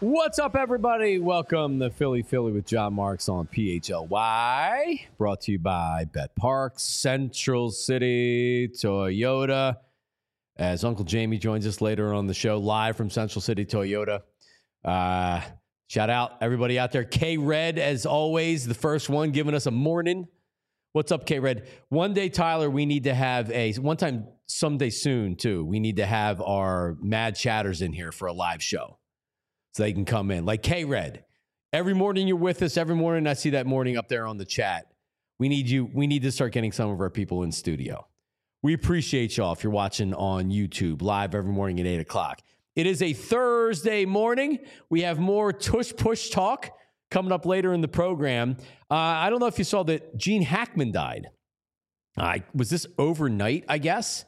What's up, everybody? Welcome to Philly with John Marks on PHLY. Brought to you by Bet Parks, Central City Toyota. As Uncle Jamie joins us later on the show, live from Central City Toyota. Shout out everybody out there. K-Red, as always, the first one giving us a morning. What's up, K-Red? One day, Tyler, we need to have someday soon, too, we need to have our Mad Chatters in here for a live show. So they can come in. Like K-Red, every morning you're with us. Every morning I see that morning up there on the chat. We need you. We need to start getting some of our people in studio. We appreciate y'all if you're watching on YouTube live every morning at 8 o'clock. It is a Thursday morning. We have more tush push talk coming up later in the program. I don't know if you saw that Gene Hackman died. Was this overnight, I guess?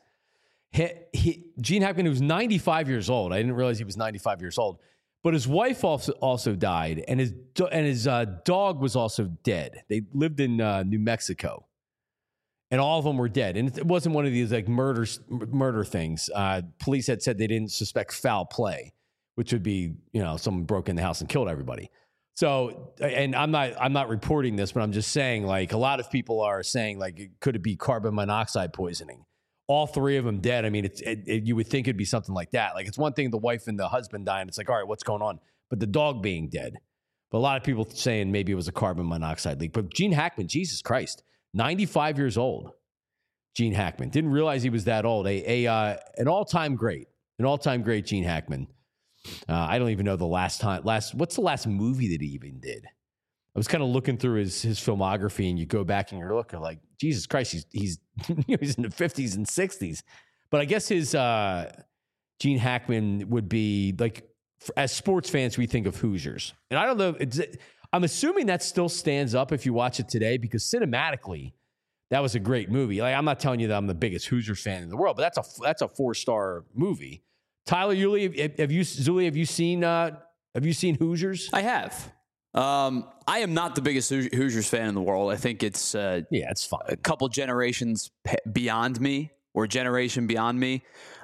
Gene Hackman, who was 95 years old. I didn't realize he was 95 years old. But his wife also died, and his dog was also dead. They lived in New Mexico, and all of them were dead. And it wasn't one of these like murder things. Police had said they didn't suspect foul play, which would be someone broke in the house and killed everybody. So, and I'm not reporting this, but I'm just saying like a lot of people are saying like could it be carbon monoxide poisoning? All three of them dead. I mean, you would think it'd be something like that. Like, it's one thing the wife and the husband dying. It's like, all right, what's going on? But the dog being dead. But a lot of people saying maybe it was a carbon monoxide leak. But Gene Hackman, Jesus Christ, 95 years old. Gene Hackman. Didn't realize he was that old. An all-time great. Gene Hackman. I don't even know what's the last movie that he even did? I was kind of looking through his filmography, and you go back and you're looking like, Jesus Christ, he's he's in the 50s and 60s. But I guess his Gene Hackman would be like, as sports fans, we think of Hoosiers. And I don't know, I'm assuming that still stands up if you watch it today, because cinematically, that was a great movie. Like, I'm not telling you that I'm the biggest Hoosiers fan in the world, but that's a 4-star movie. Tyler, Yuli, have you seen Hoosiers? I have. I am not the biggest Hoosiers fan in the world. I think it's it's fine. A couple generations beyond me, or generation beyond me.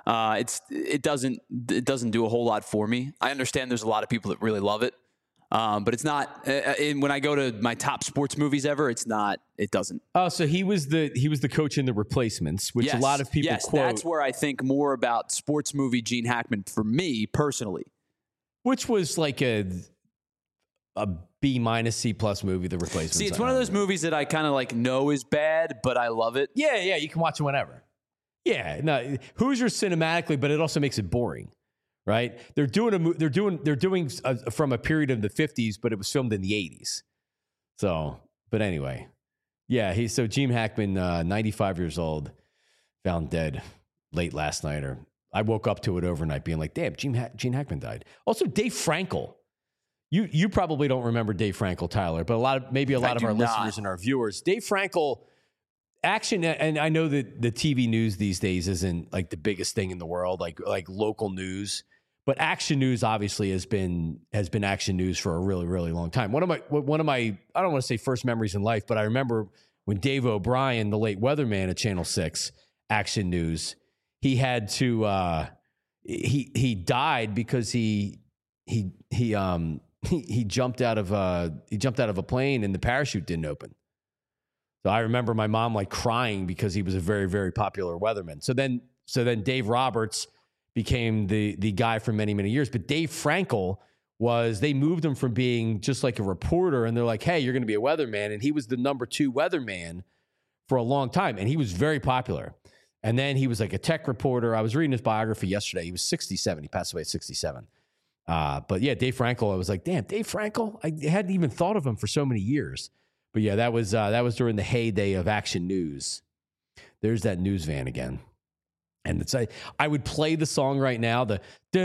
It doesn't do a whole lot for me. I understand there's a lot of people that really love it, but it's not. When I go to my top sports movies ever, it's not. It doesn't. Oh, so he was the coach in The Replacements, which a lot of people quote. That's where I think more about sports movie Gene Hackman for me personally, which was like a B- C+ movie, The Replacements. See, it's one of those movies that I kind of like know is bad, but I love it. Yeah, you can watch it whenever. Yeah, no, Hoosiers cinematically, but it also makes it boring, right? They're doing from a period of the 50s, but it was filmed in the 80s. So, but anyway, yeah, so Gene Hackman, 95 years old, found dead late last night, or I woke up to it overnight, being like, damn, Gene Hackman died. Also, Dave Frankel. You probably don't remember Dave Frankel, Tyler, but a lot of our listeners and our viewers. Dave Frankel, action, and I know that the TV news these days isn't like the biggest thing in the world, like local news, but action news obviously has been action news for a really, really long time. One of my I don't want to say first memories in life, but I remember when Dave O'Brien, the late weatherman at Channel 6, Action News, he had to he died because he jumped out of a plane and the parachute didn't open. So I remember my mom like crying because he was a very, very popular weatherman. So then Dave Roberts became the guy for many, many years. But Dave Frankel they moved him from being just like a reporter, and they're like, hey, you're going to be a weatherman. And he was the number 2 weatherman for a long time. And he was very popular. And then he was like a tech reporter. I was reading his biography yesterday. He was 67. He passed away at 67. But yeah, Dave Frankel, I was like, damn, Dave Frankel? I hadn't even thought of him for so many years. But yeah, that was during the heyday of Action News. There's that news van again. And it's I would play the song right now, the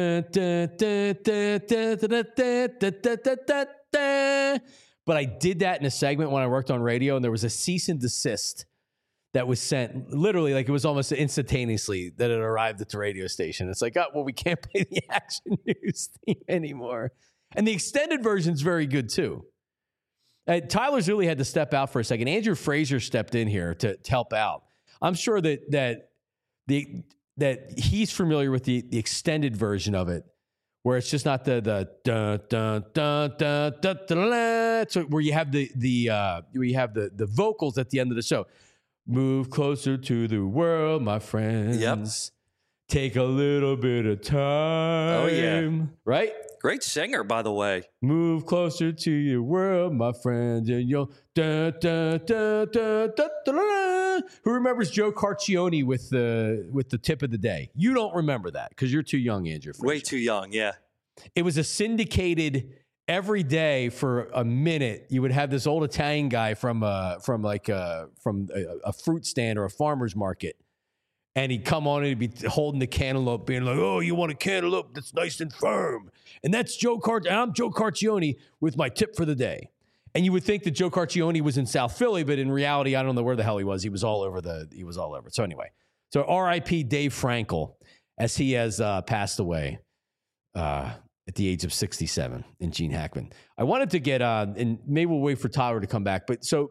but I did that in a segment when I worked on radio, and there was a cease and desist that was sent literally, like it was almost instantaneously that it arrived at the radio station. It's like, oh, well, we can't play the Action News theme anymore. And the extended version's very good too. Tyler Zulli had to step out for a second. Andrew Frazier stepped in here to help out. I'm sure that he's familiar with the extended version of it, where it's just not the dun dun dun dun dun dun, dun, so where you have the vocals at the end of the show. Move closer to the world, my friends. Yep. Take a little bit of time. Oh, yeah. Right? Great singer, by the way. Move closer to your world, my friends, and you'll dun, dun, dun, dun, dun, dun, dun. Who remembers Joe Carcione with the tip of the day? You don't remember that because you're too young, Andrew. Way too young, yeah. It was a syndicated every day for a minute. You would have this old Italian guy from a fruit stand or a farmer's market. And he'd come on and he'd be holding the cantaloupe, being like, "Oh, you want a cantaloupe that's nice and firm?" And that's I'm Joe Carcione with my tip for the day. And you would think that Joe Carcione was in South Philly, but in reality, I don't know where the hell he was. He was all over. So anyway, so R.I.P. Dave Frankel, as he has passed away at the age of 67 in Gene Hackman. I wanted to get and maybe we'll wait for Tyler to come back, but so.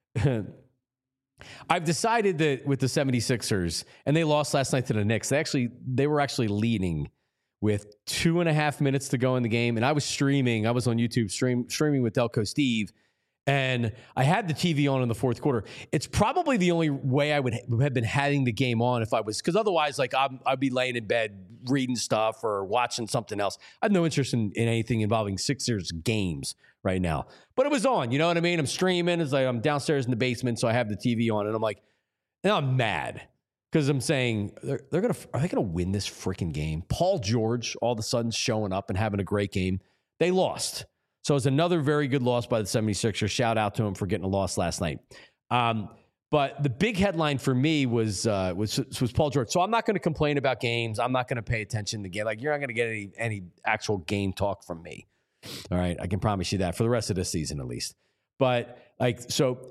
I've decided that with the 76ers, and they lost last night to the Knicks, they were actually leading with 2.5 minutes to go in the game. And I was streaming. I was on YouTube streaming with Delco Steve. And I had the TV on in the fourth quarter. It's probably the only way I would have been having the game on if I was, because otherwise, like I'd be laying in bed reading stuff or watching something else. I have no interest in anything involving Sixers games right now. But it was on, you know what I mean? I'm streaming. It's like I'm downstairs in the basement, so I have the TV on, and I'm like, and I'm mad because I'm saying are they gonna win this freaking game? Paul George all of a sudden showing up and having a great game. They lost. So it's another very good loss by the 76ers. Shout out to him for getting a loss last night. But the big headline for me was Paul George. So I'm not going to complain about games. I'm not going to pay attention to game. Like, you're not going to get any actual game talk from me. All right, I can promise you that for the rest of this season at least. But like, so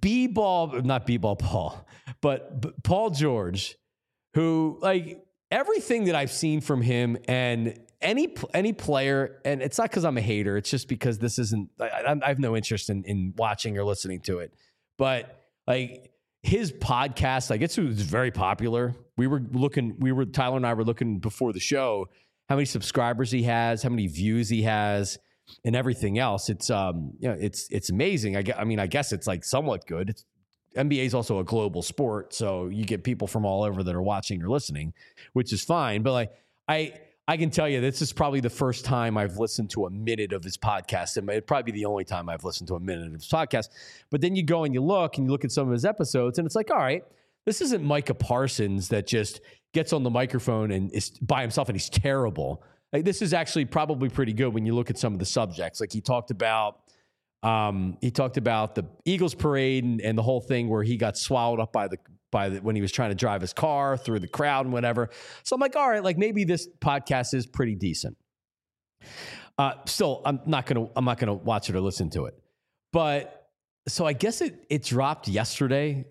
Paul, but Paul George, who, like, everything that I've seen from him and any player, and it's not because I'm a hater, it's just because this isn't, I have no interest in watching or listening to it. But like, his podcast, I guess it was very popular. Tyler and I were looking before the show how many subscribers he has, how many views he has, and everything else. It's it's amazing. I guess it's like somewhat good. NBA is also a global sport, so you get people from all over that are watching or listening, which is fine. But like, I can tell you, this is probably the first time I've listened to a minute of his podcast. It might probably be the only time I've listened to a minute of his podcast. But then you go and you look at some of his episodes, and it's like, all right, this isn't Micah Parsons that just gets on the microphone and is by himself and he's terrible. Like, this is actually probably pretty good when you look at some of the subjects. Like, he talked about the Eagles parade and the whole thing where he got swallowed up by the when he was trying to drive his car through the crowd and whatever. So I'm like, all right, like, maybe this podcast is pretty decent. Still, I'm not gonna watch it or listen to it. But so I guess it dropped yesterday.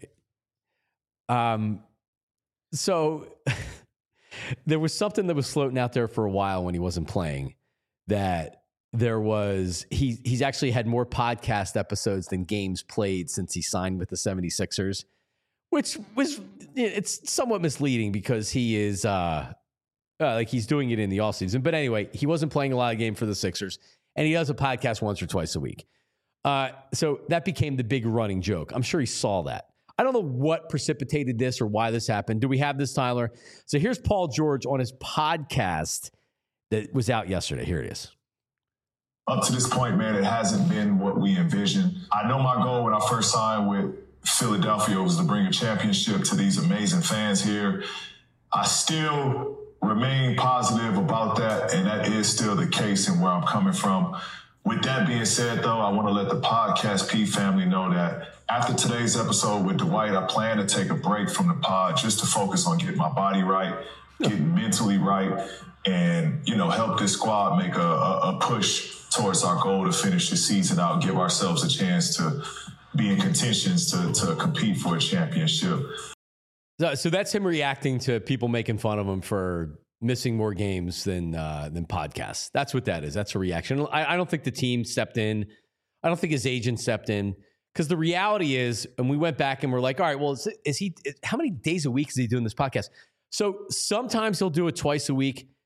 So there was something that was floating out there for a while when he wasn't playing, that there was, he's actually had more podcast episodes than games played since he signed with the 76ers, which was, it's somewhat misleading because he is like, he's doing it in the offseason. But anyway, he wasn't playing a lot of games for the Sixers, and he does a podcast once or twice a week. So that became the big running joke. I'm sure he saw that. I don't know what precipitated this or why this happened. Do we have this, Tyler? So here's Paul George on his podcast that was out yesterday. Here it is. Up to this point, man, it hasn't been what we envisioned. I know my goal when I first signed with Philadelphia was to bring a championship to these amazing fans here. I still remain positive about that, and that is still the case and where I'm coming from. With that being said, though, I want to let the Podcast P family know that after today's episode with Dwight, I plan to take a break from the pod just to focus on getting my body right, getting mentally right, and, help this squad make a push towards our goal to finish the season out, give ourselves a chance to be in contentions to compete for a championship. So that's him reacting to people making fun of him for missing more games than podcasts. That's what that is. That's a reaction. I don't think the team stepped in. I don't think his agent stepped in, because the reality is, and we went back and we're like, all right, well, how many days a week is he doing this podcast? So sometimes he'll do it twice a week.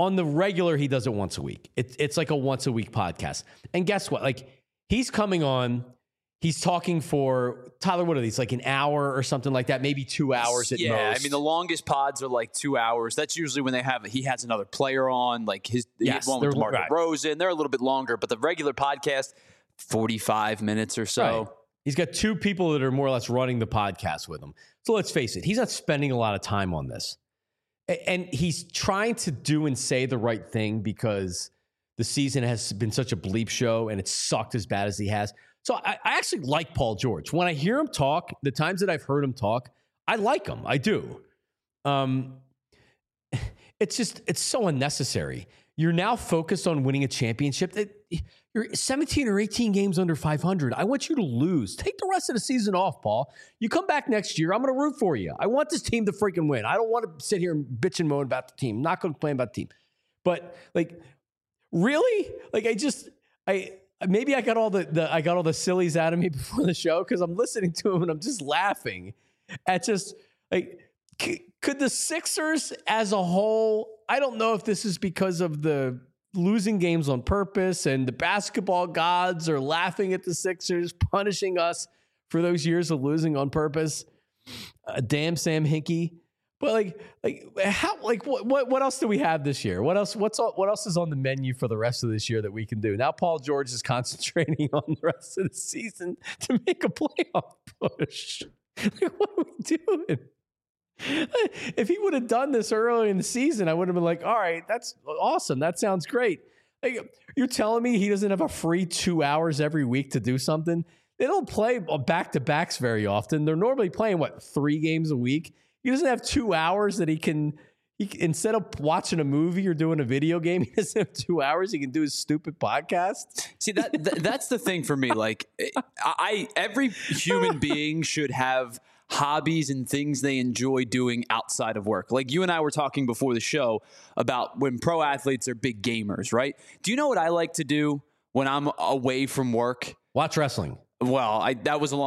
On the regular, he does it once a week. It's like a once a week podcast. And guess what? Like, he's coming on, he's talking for, Tyler, what are these? Like an hour or something like that? Maybe 2 hours at most. Yeah, I mean, the longest pods are like 2 hours. That's usually when he has another player on, like he had one with DeMar DeRozan. They're a little bit longer, but the regular podcast, 45 minutes or so. Right. He's got two people that are more or less running the podcast with him. So let's face it, he's not spending a lot of time on this. And he's trying to do and say the right thing because the season has been such a bleep show and it sucked as bad as he has. So I actually like Paul George. When I hear him talk, the times that I've heard him talk, I like him. I do. It's so unnecessary. You're now focused on winning a championship. You're 17 or 18 games under 500. I want you to lose. Take the rest of the season off, Paul. You come back next year, I'm going to root for you. I want this team to freaking win. I don't want to sit here and bitch and moan about the team. I'm not going to complain about the team. But like, really? Like, maybe I got all the sillies out of me before the show because I'm listening to him and I'm just laughing at just like, could the Sixers as a whole, I don't know if this is because of the losing games on purpose and the basketball gods are laughing at the Sixers, punishing us for those years of losing on purpose. Damn Sam Hinkie. But what else do we have this year? What else is on the menu for the rest of this year that we can do? Now Paul George is concentrating on the rest of the season to make a playoff push. Like, what are we doing? If he would have done this early in the season, I would have been like, all right, that's awesome. That sounds great. Like, you're telling me he doesn't have a free 2 hours every week to do something? They don't play back-to-backs very often. They're normally playing, 3 games a week? He doesn't have 2 hours that he can instead of watching a movie or doing a video game, he doesn't have 2 hours. He can do his stupid podcast. See, that's the thing for me. Like, every human being should have hobbies and things they enjoy doing outside of work. Like you and I were talking before the show about when pro athletes are big gamers, right? Do you know what I like to do when I'm away from work? Watch wrestling. Well, I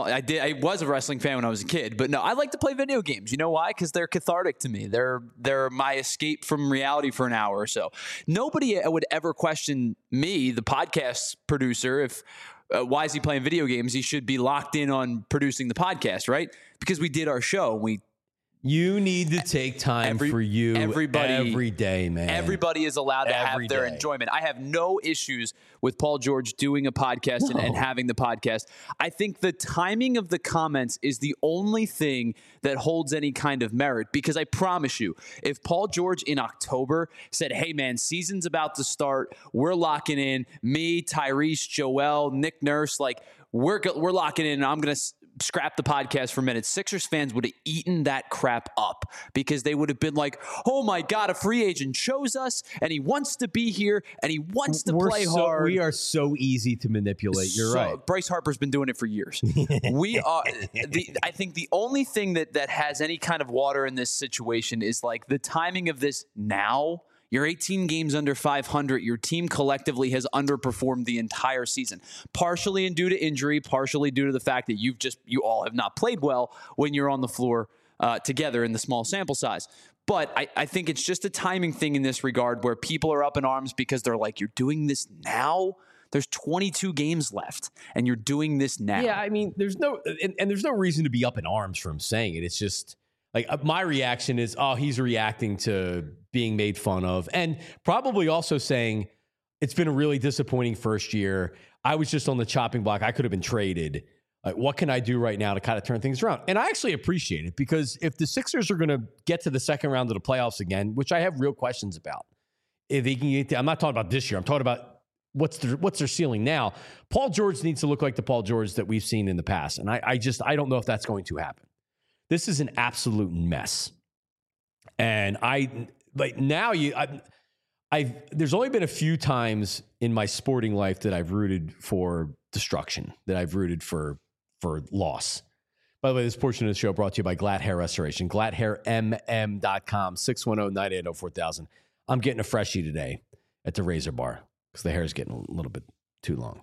was a wrestling fan when I was a kid, but no, I like to play video games. You know why? Because they're cathartic to me. They're my escape from reality for an hour or so. Nobody would ever question me, the podcast producer, if why is he playing video games? He should be locked in on producing the podcast, right? Because we did our show. You need to take time for you every day, man. Everybody is allowed to have their enjoyment. I have no issues with Paul George doing a podcast and having the podcast. I think the timing of the comments is the only thing that holds any kind of merit, because I promise you, if Paul George in October said, hey, man, season's about to start, we're locking in, me, Tyrese, Joel, Nick Nurse, like we're locking in, and I'm going to scrap the podcast for a minute, Sixers fans would have eaten that crap up, because they would have been like, oh my God, a free agent chose us and he wants to be here and he wants to play hard. We are so easy to manipulate. You're right. Bryce Harper's been doing it for years. We are. I think the only thing that has any kind of water in this situation is like the timing of this now. You're 18 games under 500. Your team collectively has underperformed the entire season, partially due to injury, partially due to the fact that you all have not played well when you're on the floor together in the small sample size. But I think it's just a timing thing in this regard where people are up in arms because they're like, you're doing this now? There's 22 games left and you're doing this now. Yeah, I mean, there's no reason to be up in arms for him saying it. It's just like my reaction is, oh, he's reacting to being made fun of, and probably also saying it's been a really disappointing first year. I was just on the chopping block. I could have been traded. Like, what can I do right now to kind of turn things around? And I actually appreciate it, because if the Sixers are going to get to the second round of the playoffs again, which I have real questions about, if they can get I'm not talking about this year. I'm talking about what's their ceiling now. Paul George needs to look like the Paul George that we've seen in the past. And I don't know if that's going to happen. This is an absolute mess. And there's only been a few times in my sporting life that I've rooted for destruction, that I've rooted for loss. By the way, this portion of the show brought to you by Glatt Hair Restoration. GlattHairMM.com, 610-980-4000. I'm getting a freshie today at the razor bar because the hair is getting a little bit too long.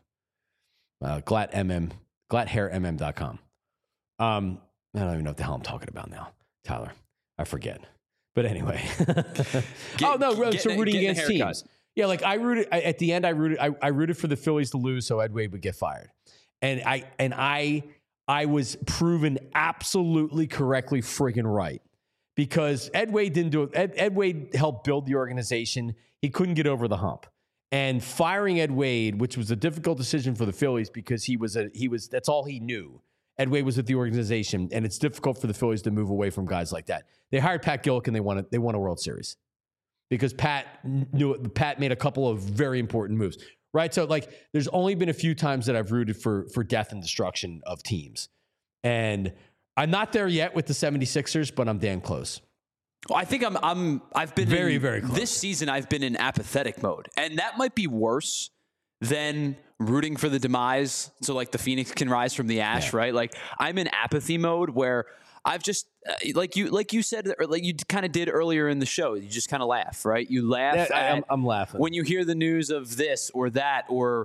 GlattHairMM.com. I don't even know what the hell I'm talking about now, Tyler. I forget. But anyway. Rooting against teams. Yeah, like I rooted for the Phillies to lose so Ed Wade would get fired. And I was proven absolutely correctly friggin' right. Because Ed Wade didn't do it. Ed Wade helped build the organization. He couldn't get over the hump. And firing Ed Wade, which was a difficult decision for the Phillies because he was that's all he knew. Ed Wade was at the organization, and it's difficult for the Phillies to move away from guys like that. They hired Pat Gillick, and they won a World Series because Pat made a couple of very important moves, right? So, like, there's only been a few times that I've rooted for death and destruction of teams. And I'm not there yet with the 76ers, but I'm damn close. Well, I think I've been very, very close. This season, I've been in apathetic mode, and that might be worse than rooting for the demise. So like the Phoenix can rise from the ash, right? Like I'm in apathy mode where I've just like you said, or like you kind of did earlier in the show. You just kind of laugh, right? You laugh. Yeah, I'm laughing when you hear the news of this or that, or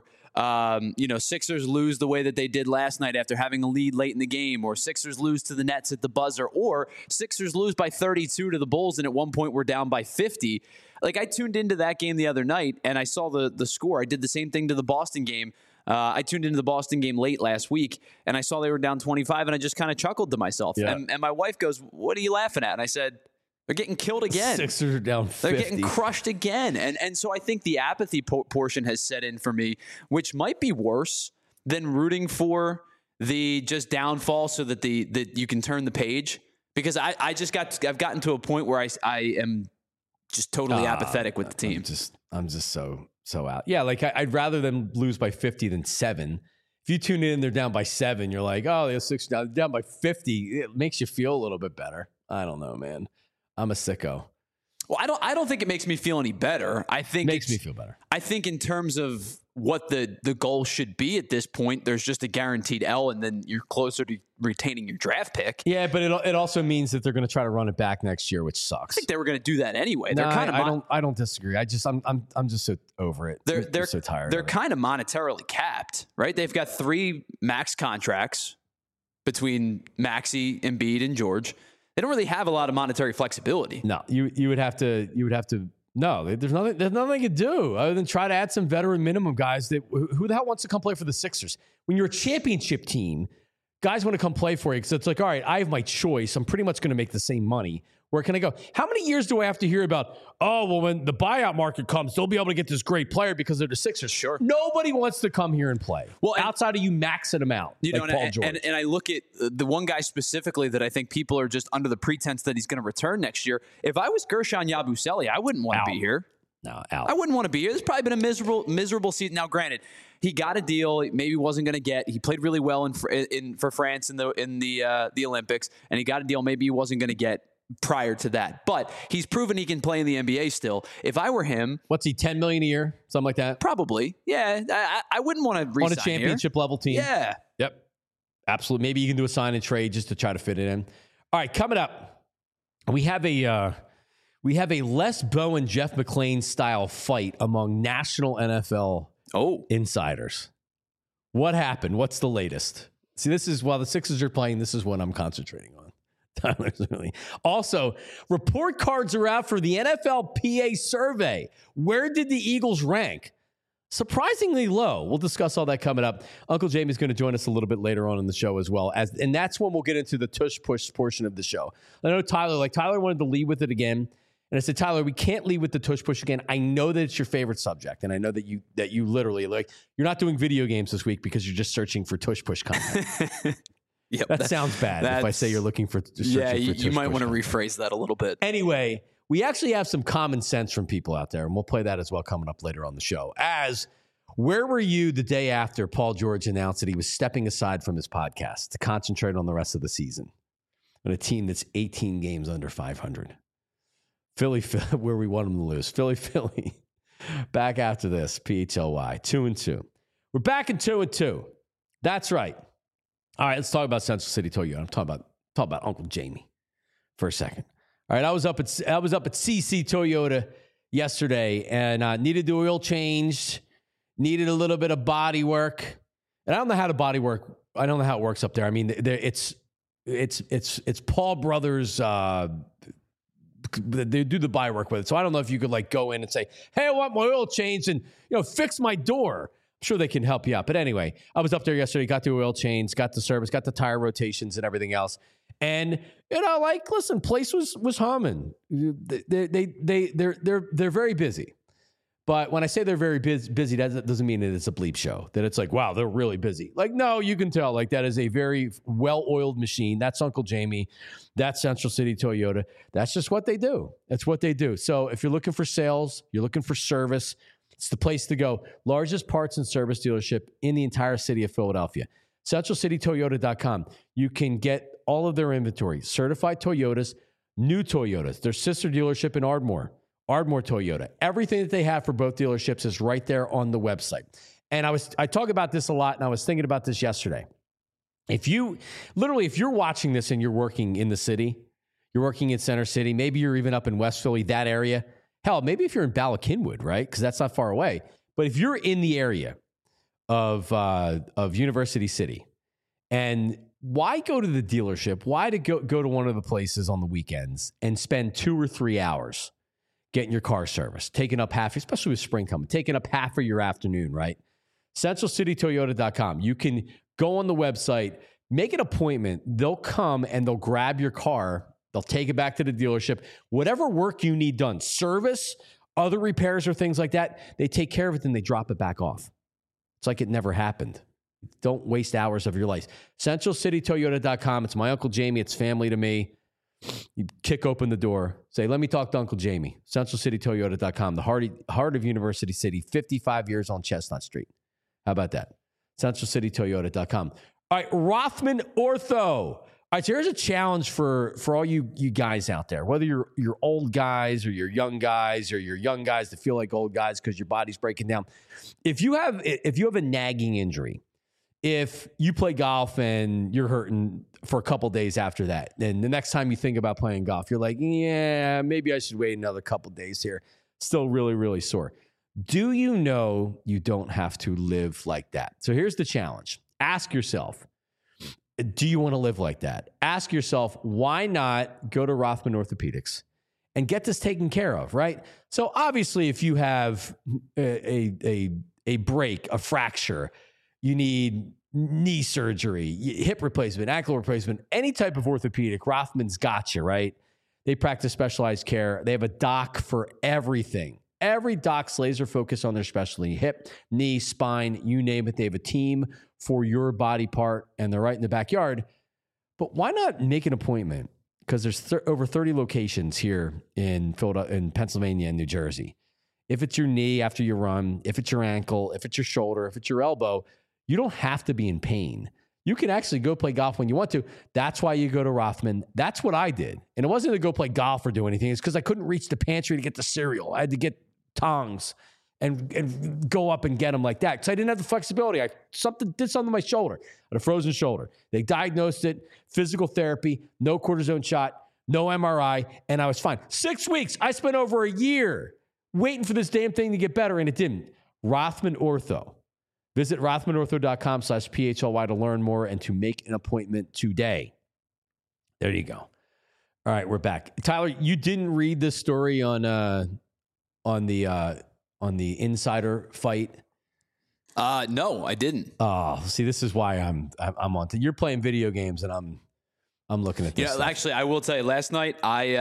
Sixers lose the way that they did last night after having a lead late in the game, or Sixers lose to the Nets at the buzzer, or Sixers lose by 32 to the Bulls, and at one point we're down by 50. Like I tuned into that game the other night and I saw the score. I did the same thing to the Boston game. I tuned into the Boston game late last week and I saw they were down 25 and I just kind of chuckled to myself. Yeah. And my wife goes, "What are you laughing at?" And I said, "They're getting killed again. Sixers are down 50. They're getting crushed again." And so I think the apathy portion has set in for me, which might be worse than rooting for the just downfall so that that you can turn the page. Because I've gotten to a point where I am just totally apathetic with the team. I'm just so out. Yeah, like I'd rather them lose by 50 than 7. If you tune in and they're down by 7, you're like, oh, they're 6 down by 50. It makes you feel a little bit better. I don't know, man. I'm a sicko. Well, I don't think it makes me feel any better. I think it makes me feel better. I think in terms of what the goal should be at this point, there's just a guaranteed L, and then you're closer to retaining your draft pick. Yeah, but it also means that they're going to try to run it back next year, which sucks. I think they were going to do that anyway. No, I don't disagree. I'm just so over it. I'm so tired. They're kind of monetarily capped, right? They've got 3 max contracts between Maxey, Embiid, and George. They don't really have a lot of monetary flexibility. No, you would have to. No, there's nothing you can do other than try to add some veteran minimum guys. Who the hell wants to come play for the Sixers? When you're a championship team, guys want to come play for you because it's like, all right, I have my choice. I'm pretty much going to make the same money. Where can I go? How many years do I have to hear about, oh, well, when the buyout market comes, they'll be able to get this great player because they're the Sixers? Sure. Nobody wants to come here and play. Well, outside of you maxing them out, like Paul George. And I look at the one guy specifically that I think people are just under the pretense that he's going to return next year. If I was Gershon Yabusele, I wouldn't want to be here. No, out. I wouldn't want to be here. There's probably been a miserable season. Now, granted, he got a deal he maybe wasn't going to get. He played really well for France in the Olympics, and he got a deal maybe he wasn't going to get prior to that. But he's proven he can play in the NBA still. If I were him... What's he, $10 million a year? Something like that? Probably. Yeah. I wouldn't want to re-sign on a championship level team? Yeah. Yep. Absolutely. Maybe you can do a sign and trade just to try to fit it in. All right, coming up, we have a Les Bowen, Jeff McLean style fight among national NFL insiders. What happened? What's the latest? See, this is while the Sixers are playing, this is what I'm concentrating on. Also, report cards are out for the NFLPA survey. Where did the Eagles rank? Surprisingly low. We'll discuss all that coming up. Uncle Jamie's going to join us a little bit later on in the show as well. And that's when we'll get into the tush push portion of the show. I know Tyler wanted to lead with it again. And I said, Tyler, we can't lead with the tush push again. I know that it's your favorite subject. And I know that you literally, you're not doing video games this week because you're just searching for tush push content. Yep, that sounds bad if I say you're looking for you might want to rephrase that a little bit. Anyway, we actually have some common sense from people out there, and we'll play that as well coming up later on the show. Where were you the day after Paul George announced that he was stepping aside from his podcast to concentrate on the rest of the season on a team that's 18 games under 500? Philly, where we want them to lose. Philly. Back after this, PHLY, 2-2. We're back in 2-2. That's right. All right, let's talk about Central City Toyota. I'm talking about Uncle Jamie for a second. All right, I was up at CC Toyota yesterday and needed the oil changed, needed a little bit of body work, and I don't know how the body work. I don't know how it works up there. I mean, it's Paul Brothers they do the buy work with it. So I don't know if you could like go in and say, hey, I want my oil changed and, fix my door. I'm sure they can help you out. But anyway, I was up there yesterday, got the oil change, got the service, got the tire rotations and everything else. And, listen, place was humming. They're very busy. But when I say they're very busy, that doesn't mean that it's a bleep show, that it's like, wow, they're really busy. Like, no, you can tell. Like, that is a very well-oiled machine. That's Uncle Jamie. That's Central City Toyota. That's just what they do. That's what they do. So if you're looking for sales, you're looking for service, it's the place to go. Largest parts and service dealership in the entire city of Philadelphia. CentralCityToyota.com. You can get all of their inventory. Certified Toyotas, new Toyotas. Their sister dealership in Ardmore Toyota. Everything that they have for both dealerships is right there on the website. And I talk about this a lot, and I was thinking about this yesterday. If you're watching this and you're working in the city, you're working in Center City, maybe you're even up in West Philly, that area. Hell, maybe if you're in Bala Cynwyd, right? Because that's not far away. But if you're in the area of University City, and why go to the dealership? Why to go to one of the places on the weekends and spend 2 or 3 hours getting your car serviced, taking up half, especially with spring coming, taking up half of your afternoon, right? CentralCityToyota.com. You can go on the website, make an appointment. They'll come and they'll grab your car. They'll take it back to the dealership. Whatever work you need done, service, other repairs or things like that, they take care of it and they drop it back off. It's like it never happened. Don't waste hours of your life. CentralCityToyota.com. It's my Uncle Jamie. It's family to me. You kick open the door, say, let me talk to Uncle Jamie. CentralCityToyota.com, the heart of University City, 55 years on Chestnut Street. How about that? CentralCityToyota.com. All right, Rothman Ortho. All right, so here's a challenge for all you guys out there, whether you're old guys or you're young guys or you're young guys that feel like old guys because your body's breaking down. If you have a nagging injury, if you play golf and you're hurting for a couple days after that, then the next time you think about playing golf, you're like, yeah, maybe I should wait another couple days here. Still really, really sore. Do you know you don't have to live like that? So here's the challenge. Ask yourself, do you want to live like that? Ask yourself, why not go to Rothman Orthopedics and get this taken care of, right? So obviously, if you have a break, a fracture, you need knee surgery, hip replacement, ankle replacement, any type of orthopedic, Rothman's got you, right? They practice specialized care. They have a doc for everything. Every doc's laser focused on their specialty, hip, knee, spine, you name it. They have a team for your body part, and they're right in the backyard. But why not make an appointment? Because there's over 30 locations here in Philadelphia, in Pennsylvania and New Jersey. If it's your knee after you run, if it's your ankle, if it's your shoulder, if it's your elbow, you don't have to be in pain. You can actually go play golf when you want to. That's why you go to Rothman. That's what I did. And it wasn't to go play golf or do anything. It's because I couldn't reach the pantry to get the cereal. I had to get tongs and go up and get them like that because I didn't have the flexibility. I did something to my shoulder. I had a frozen shoulder. They diagnosed it, physical therapy, no cortisone shot, no MRI, and I was fine. 6 weeks. I spent over a year waiting for this damn thing to get better, and it didn't. Rothman Ortho. Visit rothmanortho.com/PHLY to learn more and to make an appointment today. There you go. All right, we're back. Tyler, you didn't read this story on the insider fight? No, I didn't. Oh, see, this is why I'm on to. You're playing video games and I'm looking at this. Yeah, actually, I will tell you. Last night,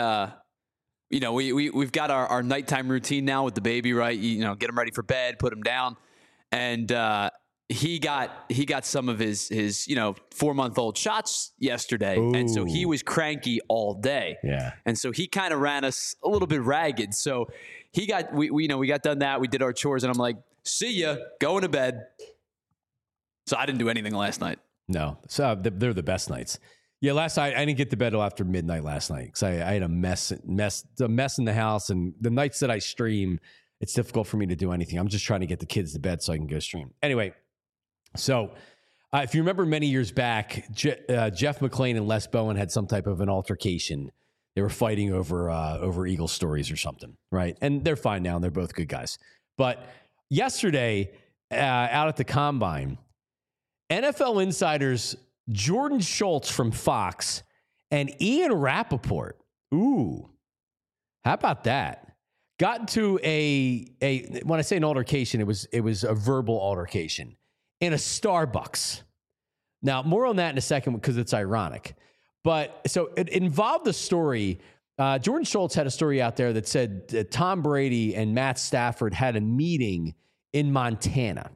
we've got our nighttime routine now with the baby, right? Get him ready for bed, put him down. And he got some of his 4-month-old shots yesterday. Ooh. And so he was cranky all day. Yeah. And so he kind of ran us a little bit ragged. So we got done that. We did our chores and I'm like, see ya, going to bed. So I didn't do anything last night. No. So they're the best nights. Yeah, last night I didn't get to bed till after midnight last night because I had a mess in the house, and the nights that I stream, it's difficult for me to do anything. I'm just trying to get the kids to bed so I can go stream. Anyway, so if you remember many years back, Jeff McClain and Les Bowen had some type of an altercation. They were fighting over Eagle stories or something, right? And they're fine now, and they're both good guys. But yesterday, out at the Combine, NFL insiders Jordan Schultz from Fox and Ian Rappaport, How about that? Got into a when I say an altercation, it was a verbal altercation in a Starbucks. Now, more on that in a second because it's ironic. But so it involved the story. Jordan Schultz had a story out there that said that Tom Brady and Matt Stafford had a meeting in Montana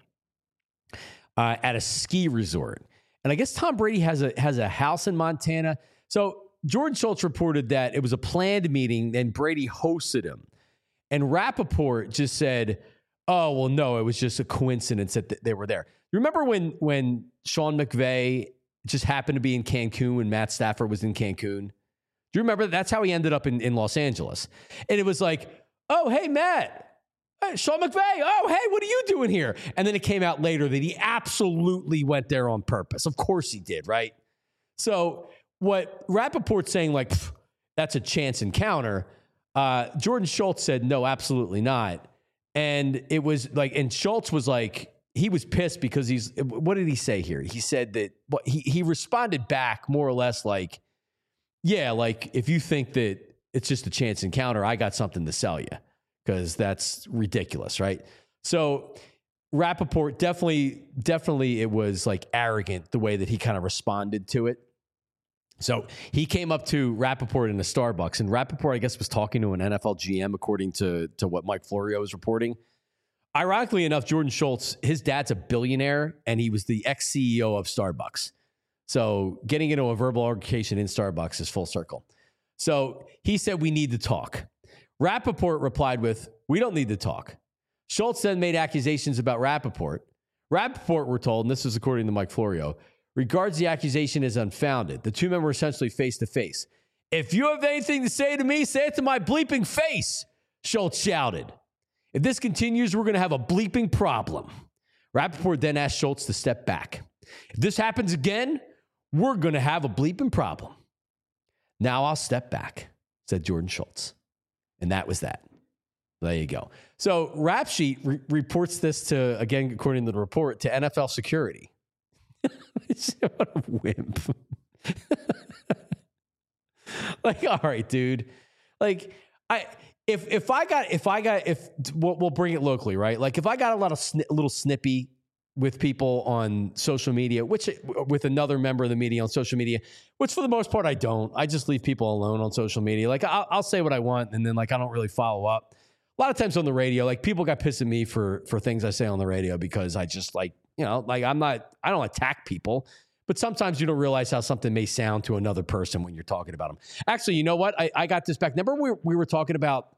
at a ski resort. And I guess Tom Brady has a house in Montana. So Jordan Schultz reported that it was a planned meeting and Brady hosted him. And Rappaport just said, oh, well, no, it was just a coincidence that they were there. You remember when Sean McVay just happened to be in Cancun when Matt Stafford was in Cancun? Do you remember? That's how he ended up in Los Angeles. And it was like, oh, hey, Matt. Hey, Sean McVay. Oh, hey, what are you doing here? And then it came out later that he absolutely went there on purpose. Of course he did, right? So what Rappaport's saying, like, that's a chance encounter. Jordan Schultz said, no, absolutely not. And it was like, and Schultz was like, he was pissed because what did he say here? He said that he responded back more or less like, yeah, like if you think that it's just a chance encounter, I got something to sell you because that's ridiculous, right? So Rappaport definitely it was like arrogant the way that he kind of responded to it. So he came up to Rappaport in a Starbucks, and Rappaport, I guess, was talking to an NFL GM, according to what Mike Florio was reporting. Ironically enough, Jordan Schultz, his dad's a billionaire, and he was the ex-CEO of Starbucks. So getting into a verbal altercation in Starbucks is full circle. So he said, we need to talk. Rappaport replied with, we don't need to talk. Schultz then made accusations about Rappaport. Rappaport, we're told, and this is according to Mike Florio, regards the accusation as unfounded. The two men were essentially face-to-face. If you have anything to say to me, say it to my bleeping face, Schultz shouted. If this continues, we're going to have a bleeping problem. Rappaport then asked Schultz to step back. If this happens again, we're going to have a bleeping problem. Now I'll step back, said Jordan Schultz. And that was that. There you go. So Rap Sheet reports this to, again, according to the report, to NFL security. What a wimp. Like, all right, dude. Like, we'll bring it locally, right? Like, if I got a lot of little snippy with people on social media, with another member of the media on social media, which for the most part I don't. I just leave people alone on social media. Like, I'll say what I want, and then like I don't really follow up. A lot of times on the radio, like people got pissed at me for things I say on the radio because I just like, you know, like I don't attack people, but sometimes you don't realize how something may sound to another person when you're talking about them. Actually, you know what? I got this back. Remember we were talking about,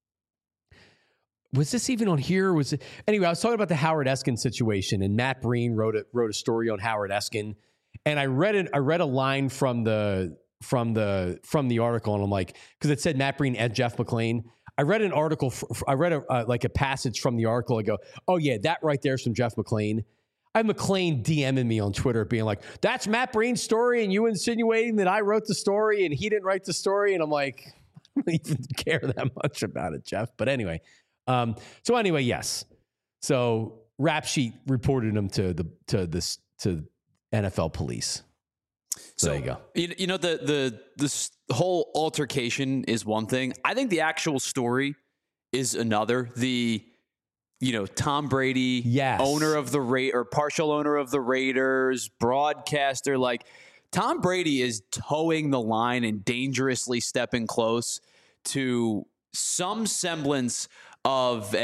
was this even on here? Anyway, I was talking about the Howard Eskin situation, and Matt Breen wrote a story on Howard Eskin, and I read a line from the article, and I'm like, because it said Matt Breen and Jeff McLean. I read an article. I read a passage from the article. I go, oh yeah, that right there is from Jeff McLean. I have McLean DMing me on Twitter being like, that's Matt Breen's story, and you insinuating that I wrote the story and he didn't write the story, and I'm like, I don't even care that much about it, Jeff. But anyway. So anyway, yes. So Rap Sheet reported him to NFL police. So there you go. You know, this whole altercation is one thing. I think the actual story is another. Tom Brady, yes, owner of or partial owner of the Raiders, broadcaster, like Tom Brady is towing the line and dangerously stepping close to some semblance of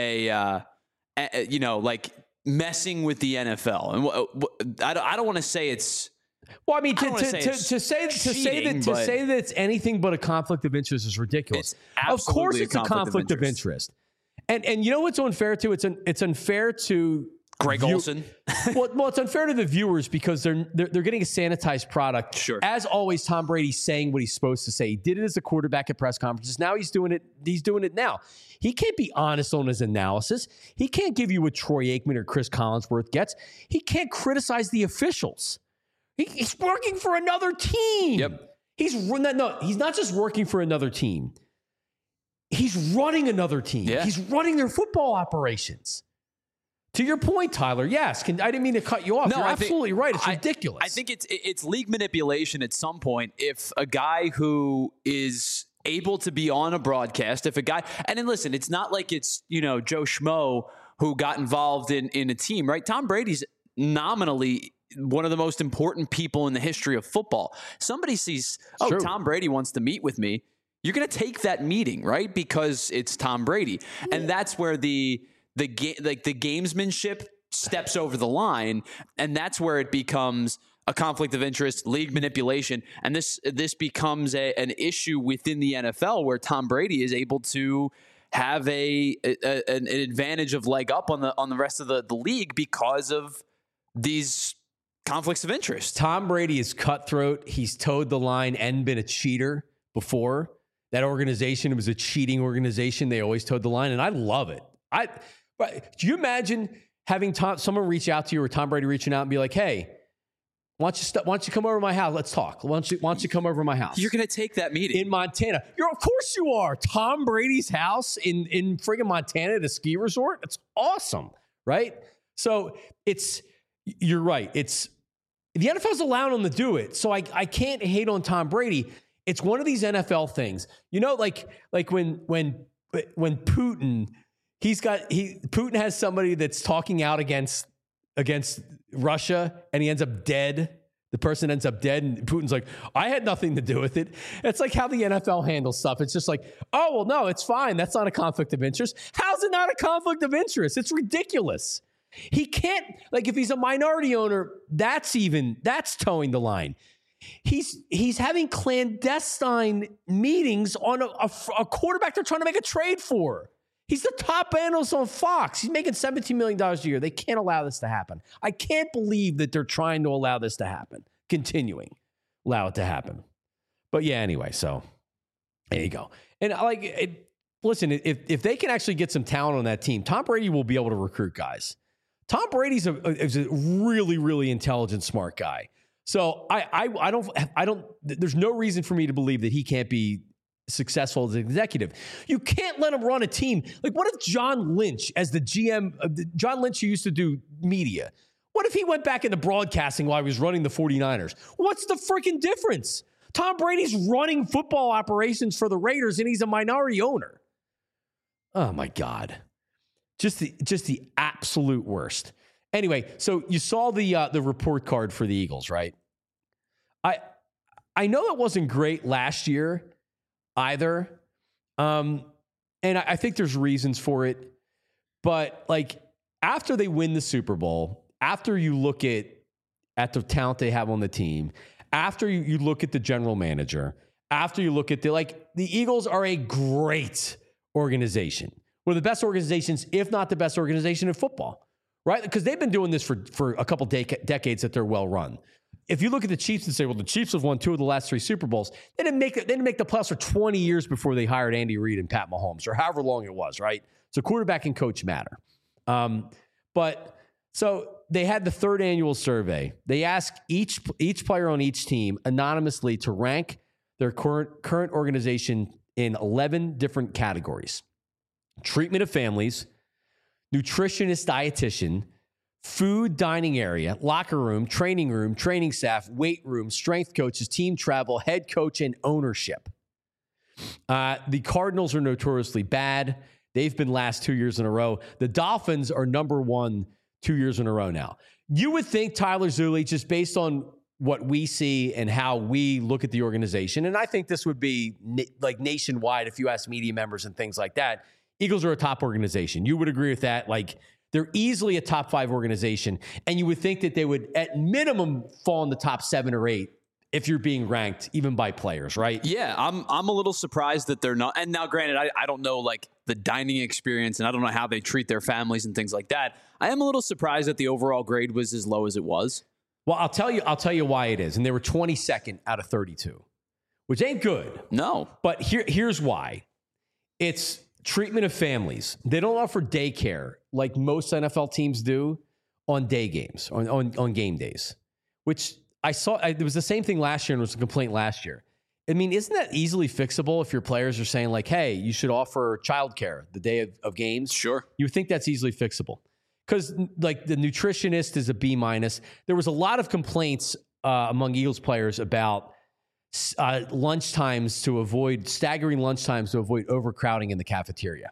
like messing with the NFL. And I don't want to say it's. Well, I mean, to say that it's anything but a conflict of interest is ridiculous. Of course, it's a conflict of interest. And you know what's unfair to? It's unfair to Greg Olsen. well, it's unfair to the viewers because they're getting a sanitized product. Sure. As always, Tom Brady's saying what he's supposed to say. He did it as a quarterback at press conferences. Now he's doing it. He's doing it now. He can't be honest on his analysis. He can't give you what Troy Aikman or Chris Collinsworth gets. He can't criticize the officials. He's working for another team. Yep. He's not just working for another team. He's running another team. Yeah. He's running their football operations. To your point, Tyler, yes. I didn't mean to cut you off. No, You're absolutely right. It's ridiculous. I think it's league manipulation at some point if a guy who is able to be on a broadcast. If a guy, and then listen, it's not like it's, Joe Schmo who got involved in a team, right? Tom Brady's nominally one of the most important people in the history of football. Somebody sees, True. Tom Brady wants to meet with me. You're going to take that meeting, right? Because it's Tom Brady. And that's where the gamesmanship steps over the line. And that's where it becomes a conflict of interest, league manipulation. And this becomes an issue within the NFL where Tom Brady is able to have an advantage of leg up on the rest of the league because of these conflicts of interest. Tom Brady is cutthroat. He's towed the line and been a cheater before. That organization, it was a cheating organization. They always towed the line, and I love it. Do you imagine having someone reach out to you or Tom Brady reaching out and be like, hey, why don't you come over to my house? Let's talk. Why don't you come over to my house? You're going to take that meeting. In Montana. Of course you are. Tom Brady's house in friggin' Montana at a ski resort. It's awesome, right? So you're right. The NFL's allowing them to do it. So I can't hate on Tom Brady. It's one of these NFL things. Like when Putin, Putin has somebody that's talking out against Russia and he ends up dead. The person ends up dead and Putin's like, I had nothing to do with it. It's like how the NFL handles stuff. It's just like, oh, well, no, it's fine. That's not a conflict of interest. How's it not a conflict of interest? It's ridiculous. He can't, if he's a minority owner, that's towing the line. He's having clandestine meetings on a quarterback they're trying to make a trade for. He's the top analyst on Fox. He's making $17 million a year. They can't allow this to happen. I can't believe that they're trying to allow this to happen. Allow it to happen. But yeah, anyway, so there you go. And listen, if they can actually get some talent on that team, Tom Brady will be able to recruit guys. Tom Brady's is a really, really intelligent, smart guy. So I don't. There's no reason for me to believe that he can't be successful as an executive. You can't let him run a team. What if John Lynch, as the GM, John Lynch, who used to do media, what if he went back into broadcasting while he was running the 49ers? What's the freaking difference? Tom Brady's running football operations for the Raiders, and he's a minority owner. Oh my God. Just the absolute worst. Anyway, so you saw the report card for the Eagles, right? I know it wasn't great last year either. And I think there's reasons for it. But after they win the Super Bowl, after you look at the talent they have on the team, after you look at the general manager, after you look at the Eagles are a great organization. One of the best organizations, if not the best organization in football, right? Because they've been doing this for a couple decades that they're well run. If you look at the Chiefs and say, well, the Chiefs have won 2 of the last 3 Super Bowls, they didn't make the playoffs for 20 years before they hired Andy Reid and Pat Mahomes, or however long it was, right? So quarterback and coach matter. So they had the 3rd annual survey. They asked each player on each team anonymously to rank their current organization in 11 different categories: treatment of families, nutritionist, dietitian, food, dining area, locker room, training staff, weight room, strength coaches, team travel, head coach, and ownership. The Cardinals are notoriously bad. They've been last 2 years in a row. The Dolphins are number 1 2 years in a row now. You would think Tyler Zulli, just based on what we see and how we look at the organization, and I think this would be nationwide if you ask media members and things like that, Eagles are a top organization. You would agree with that? They're easily a top 5 organization, and you would think that they would, at minimum, fall in the top 7 or 8 if you're being ranked, even by players, right? Yeah, I'm a little surprised that they're not. And now, granted, I don't know the dining experience, and I don't know how they treat their families and things like that. I am a little surprised that the overall grade was as low as it was. Well, I'll tell you why it is, and they were 22nd out of 32, which ain't good. No, but here's why. It's treatment of families. They don't offer daycare like most NFL teams do on day games, on game days, which I saw. It was the same thing last year, and it was a complaint last year. I mean, isn't that easily fixable if your players are saying hey, you should offer childcare the day of games? Sure. You would think that's easily fixable. Because the nutritionist is a B-. There was a lot of complaints among Eagles players about staggering lunch times to avoid overcrowding in the cafeteria.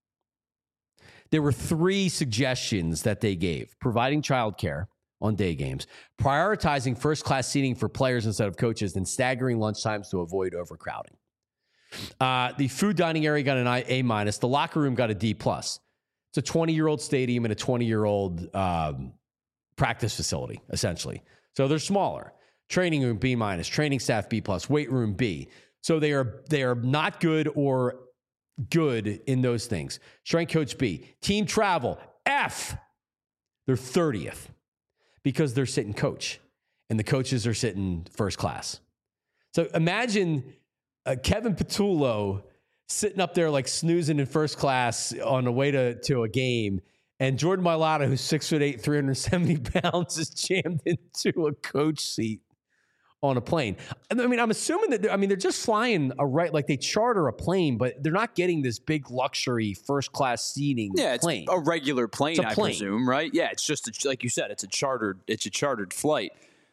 There were 3 suggestions that they gave: providing childcare on day games, prioritizing first-class seating for players instead of coaches, and staggering lunch times to avoid overcrowding. The food dining area got an A-. The locker room got a D+. It's a 20-year-old stadium and a 20-year-old practice facility, essentially. So they're smaller. Training room B-, training staff B+, weight room B. So they are not good or good in those things. Strength coach B. Team travel F. They're 30th because they're sitting coach and the coaches are sitting first class. So imagine Kevin Patullo sitting up there like snoozing in first class on the way to a game, and Jordan Mailata, who's 6'8", 370 pounds, is jammed into a coach seat on a plane. I mean, I'm assuming that they're just flying like they charter a plane, but they're not getting this big luxury first class seating. Yeah, it's plane. a regular plane, I presume, right? Yeah, it's just like you said, it's a chartered flight.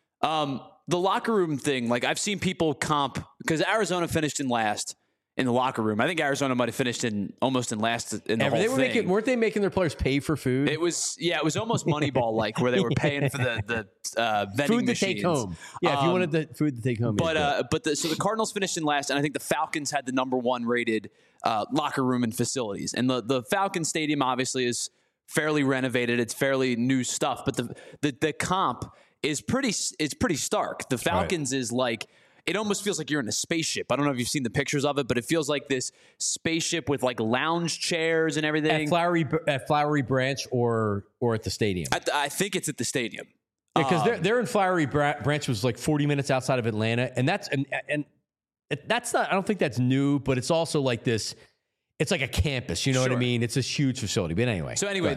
The locker room thing, like I've seen people comp, because Arizona finished in last in the locker room. I think Arizona might have finished almost in last in the whole thing. Weren't they making their players pay for food? It was almost Moneyball-like, where they were paying for the vending food to machines. take home. Yeah, if you wanted the food to take home. So the Cardinals finished in last, and I think the Falcons had the number 1 rated locker room and facilities. And the Falcons Stadium obviously is fairly renovated. It's fairly new stuff, but the comp is pretty stark. The Falcons is like, it almost feels like you're in a spaceship. I don't know if you've seen the pictures of it, but it feels like this spaceship with like lounge chairs and everything. At Flowery Branch or at the stadium? I think it's at the stadium. Because they're in Flowery Branch, which was like 40 minutes outside of Atlanta, and that's not. I don't think that's new, but it's also like this. It's like a campus. You know what I mean? It's a huge facility. But anyway. So anyway,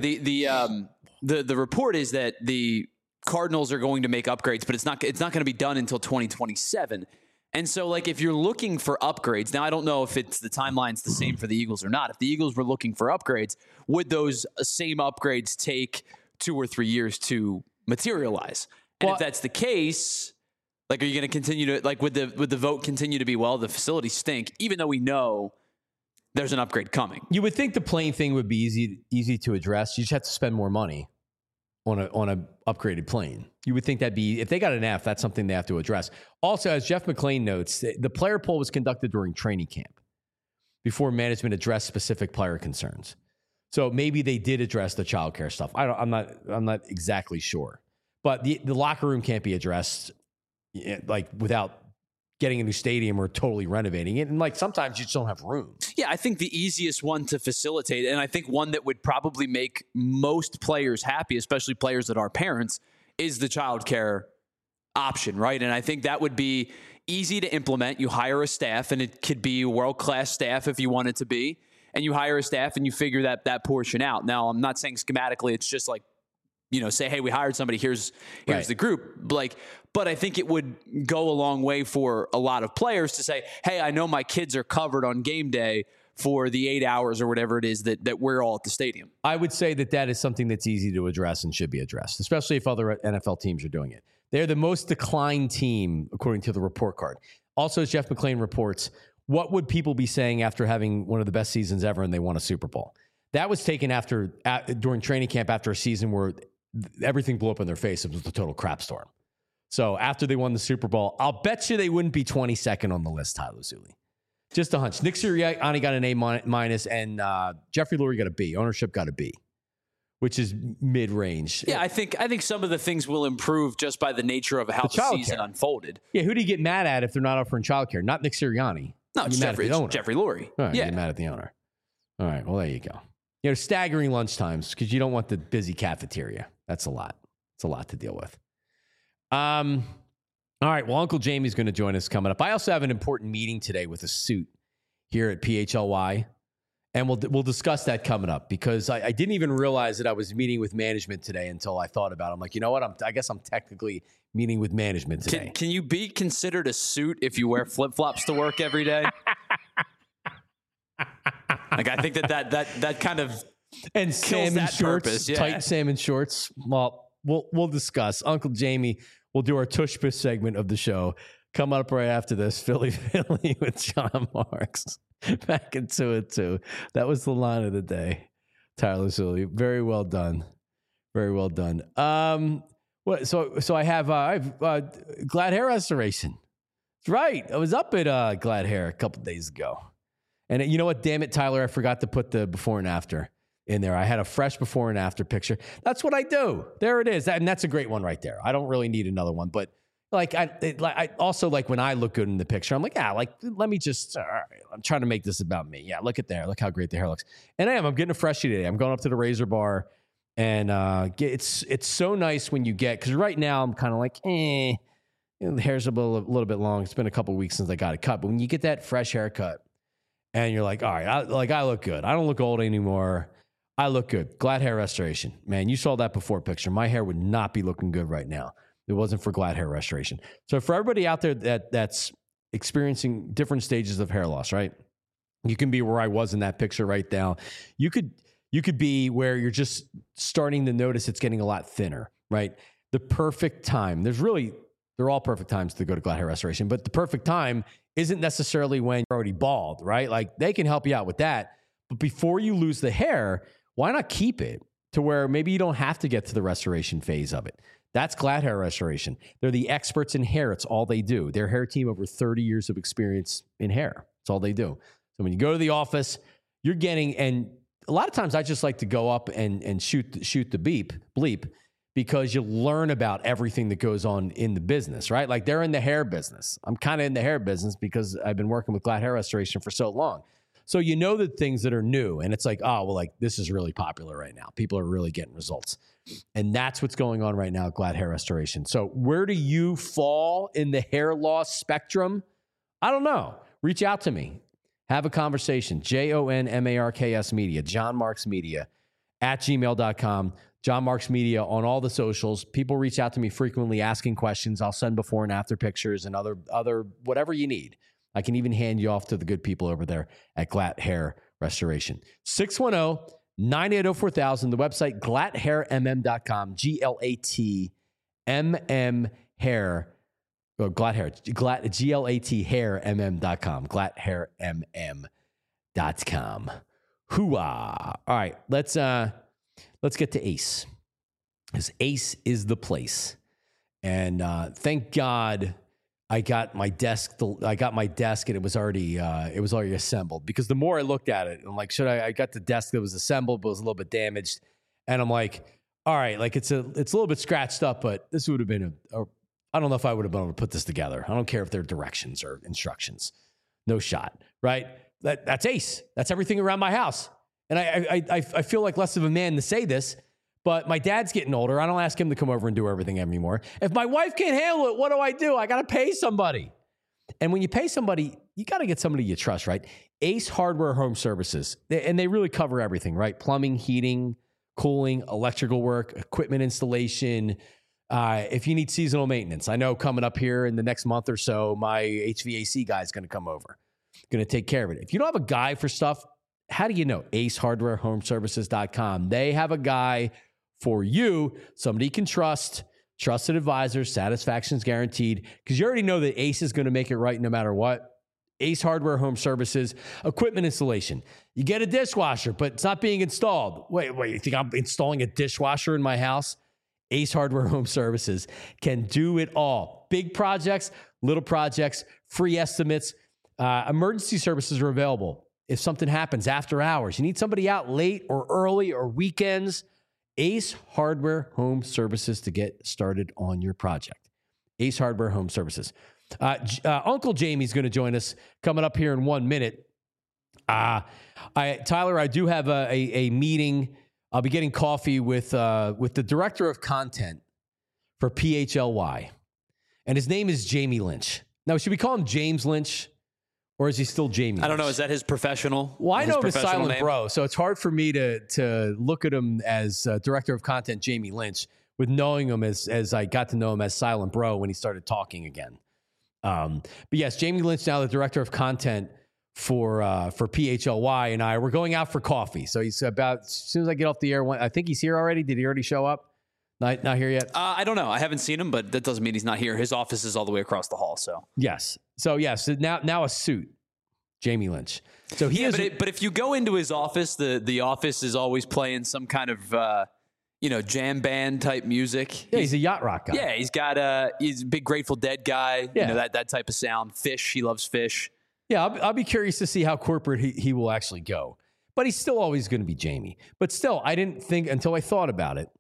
the report is that the Cardinals are going to make upgrades, but it's not going to be done until 2027. And so, like, if you're looking for upgrades, now I don't know if the timeline's the same for the Eagles or not. If the Eagles were looking for upgrades, would those same upgrades take 2 or 3 years to materialize? And if that's the case, like, are you going to continue to, like, would the vote continue to be, well, the facilities stink, even though we know there's an upgrade coming? You would think the plane thing would be easy to address. You just have to spend more money on a upgraded plane. You would think that'd be, if they got an F, that's something they have to address. Also, as Jeff McLean notes, the player poll was conducted during training camp before management addressed specific player concerns. So maybe they did address the childcare stuff. I'm not exactly sure, but the locker room can't be addressed like without getting a new stadium or totally renovating it. And like sometimes you just don't have room. Yeah, I think the easiest one to facilitate, and I think one that would probably make most players happy, especially players that are parents, is the childcare option, right? And I think that would be easy to implement. You hire a staff, and it could be world-class staff if you want it to be, and you hire a staff and you figure that portion out. Now, I'm not saying schematically it's just like, say, hey, we hired somebody, here's right. The group. But I think it would go a long way for a lot of players to say, hey, I know my kids are covered on game day for the 8 hours or whatever it is that we're all at the stadium. I would say that is something that's easy to address and should be addressed, especially if other NFL teams are doing it. They're the most declined team, according to the report card. Also, as Jeff McLean reports, what would people be saying after having one of the best seasons ever and they won a Super Bowl? That was taken during training camp after a season where everything blew up in their face. It was a total crap storm. So after they won the Super Bowl, I'll bet you they wouldn't be 22nd on the list, Tyler Zuli. Just a hunch. Nick Sirianni got an A-, and Jeffrey Lurie got a B. Ownership got a B, which is mid-range. Yeah, I think some of the things will improve just by the nature of how the season unfolded. Yeah, who do you get mad at if they're not offering childcare? Not Nick Sirianni. No, it's Jeffrey Lurie. All right, you're mad at the owner. All right, well, there you go. Staggering lunch times because you don't want the busy cafeteria. That's a lot. It's a lot to deal with. All right. Well, Uncle Jamie's going to join us coming up. I also have an important meeting today with a suit here at PHLY, and we'll discuss that coming up because I didn't even realize that I was meeting with management today until I thought about it. I'm like, you know what? I guess I'm technically meeting with management today. Can you be considered a suit if you wear flip-flops to work every day? Like, I think that kind of and salmon shorts, tight salmon shorts. Well, we'll discuss. Uncle Jamie will do our Tush Push segment of the show Coming up right after this, Philly with John Marks. Back in 2-2. That was the line of the day. Tyler Zulli. Very well done. Very well done. So I have Glad Hair Restoration. That's right. I was up at Glad Hair a couple days ago. And you know what? Damn it, Tyler. I forgot to put the before and after in there. I had a fresh before and after picture. That's what I do. There it is. And that's a great one right there. I don't really need another one. But I also like when I look good in the picture, I'm like, let me just, I'm trying to make this about me. Yeah, look at there. Look how great the hair looks. And I'm getting a freshie today. I'm going up to the razor bar. And it's so nice when you get, because right now I'm kind of like, the hair's a little bit long. It's been a couple of weeks since I got it cut. But when you get that fresh haircut and you're like, all right, I look good. I don't look old anymore. I look good. Glad Hair Restoration. Man, you saw that before picture. My hair would not be looking good right now. It wasn't for Glad Hair Restoration. So for everybody out there that's experiencing different stages of hair loss, right? You can be where I was in that picture right now. You could be where you're just starting to notice it's getting a lot thinner, right? The perfect time. They're all perfect times to go to Glad Hair Restoration, but the perfect time isn't necessarily when you're already bald, right? Like they can help you out with that. But before you lose the hair, why not keep it to where maybe you don't have to get to the restoration phase of it? That's Glad Hair Restoration. They're the experts in hair. It's all they do. Their hair team, over 30 years of experience in hair. It's all they do. So when you go to the office, you're getting, and a lot of times I just like to go up and shoot the bleep, because you learn about everything that goes on in the business, right? Like they're in the hair business. I'm kind of in the hair business because I've been working with Glad Hair Restoration for so long. So you know the things that are new, and it's like, oh, well, like this is really popular right now. People are really getting results. And that's what's going on right now at Glad Hair Restoration. So where do you fall in the hair loss spectrum? I don't know. Reach out to me. Have a conversation. JONMARKS Media, John Marks Media @gmail.com. John Marks Media on all the socials. People reach out to me frequently asking questions. I'll send before and after pictures and other whatever you need. I can even hand you off to the good people over there at Glad Hair Restoration. 610-980-4000. The website, gladhairmm.com. GLATMM hair. Oh, Glad Hair. GLAT hair mm.com. Gladhairmm.com. Hooah. All right, let's get to Ace. Because Ace is the place. And thank God I got my desk and it was already assembled, because the more I looked at it, I'm like, I got the desk that was assembled, but was a little bit damaged. And I'm like, all right, like it's a little bit scratched up, but this would have been I don't know if I would have been able to put this together. I don't care if they're directions or instructions. No shot, right? That's Ace. That's everything around my house. And I feel like less of a man to say this, but my dad's getting older. I don't ask him to come over and do everything anymore. If my wife can't handle it, what do? I got to pay somebody. And when you pay somebody, you got to get somebody you trust, right? Ace Hardware Home Services. And they really cover everything, right? Plumbing, heating, cooling, electrical work, equipment installation. If you need seasonal maintenance, I know coming up here in the next month or so, my HVAC guy is going to come over, going to take care of it. If you don't have a guy for stuff, how do you know? AceHardwareHomeservices.com. They have a guy for you, somebody you can trust, trusted advisors, satisfaction's guaranteed, because you already know that Ace is going to make it right no matter what. Ace Hardware Home Services, equipment installation. You get a dishwasher, but it's not being installed. Wait, you think I'm installing a dishwasher in my house? Ace Hardware Home Services can do it all. Big projects, little projects, free estimates. Emergency services are available. If something happens after hours, you need somebody out late or early or weekends, Ace Hardware Home Services to get started on your project. Ace Hardware Home Services. Uncle Jamie's going to join us coming up here in 1 minute. Tyler, I do have a meeting. I'll be getting coffee with the director of content for PHLY. And his name is Jamie Lynch. Now, should we call him James Lynch? Or is he still Jamie Lynch? I don't know. Is that his professional? Well, I know him as Silent name? Bro, so it's hard for me to look at him as director of content Jamie Lynch with knowing him as I got to know him as Silent Bro when he started talking again. But yes, Jamie Lynch, now the director of content for PHLY, and we're going out for coffee. So he's about, as soon as I get off the air, I think he's here already. Did he already show up? Not here yet? I don't know. I haven't seen him, but that doesn't mean he's not here. His office is all the way across the hall. So Yes. So now a suit. Jamie Lynch. So he is. But if you go into his office, the office is always playing some kind of jam band type music. Yeah, he's a yacht rock guy. Yeah, he's a big Grateful Dead guy. Yeah. That type of sound. Fish. He loves Fish. Yeah, I'll be curious to see how corporate he will actually go. But he's still always going to be Jamie. But still, I didn't think until I thought about it.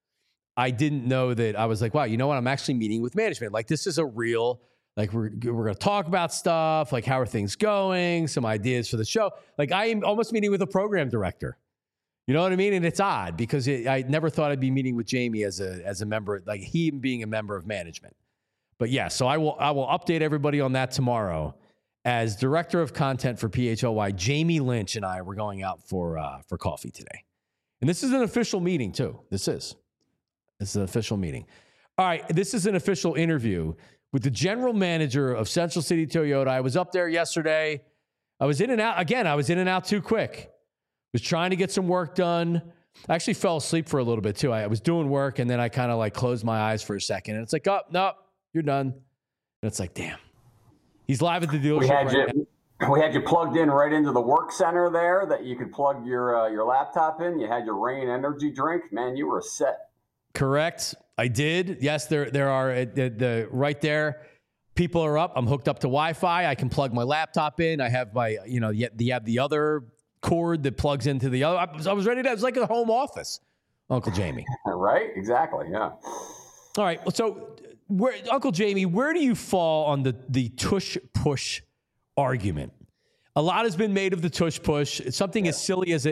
I didn't know that. I was like, wow, you know what? I'm actually meeting with management. Like, this is a real, like, we're going to talk about stuff. Like, how are things going? Some ideas for the show. Like, I am almost meeting with a program director. You know what I mean? And it's odd because I never thought I'd be meeting with Jamie as a member, like he being a member of management. But yeah, so I will update everybody on that tomorrow. As director of content for PHLY, Jamie Lynch and I were going out for coffee today. And this is an official meeting too. This is an official meeting. All right, this is an official interview with the general manager of Central City Toyota. I was up there yesterday. I was in and out. Again, I was in and out too quick. Was trying to get some work done. I actually fell asleep for a little bit too. I was doing work and then I kind of like closed my eyes for a second. And it's like, oh, no, you're done. And it's like, damn. He's live at the dealership We had you plugged in right into the work center there that you could plug your laptop in. You had your Rain energy drink. Man, you were set. Correct. I did. Yes, there are the right there. People are up. I'm hooked up to Wi-Fi. I can plug my laptop in. I have my, you have the other cord that plugs into the other. I was ready to. It was like a home office, Uncle Jamie. Right? Exactly. Yeah. All right. So, Uncle Jamie, where do you fall on the tush push argument? A lot has been made of the tush push. It's something as silly as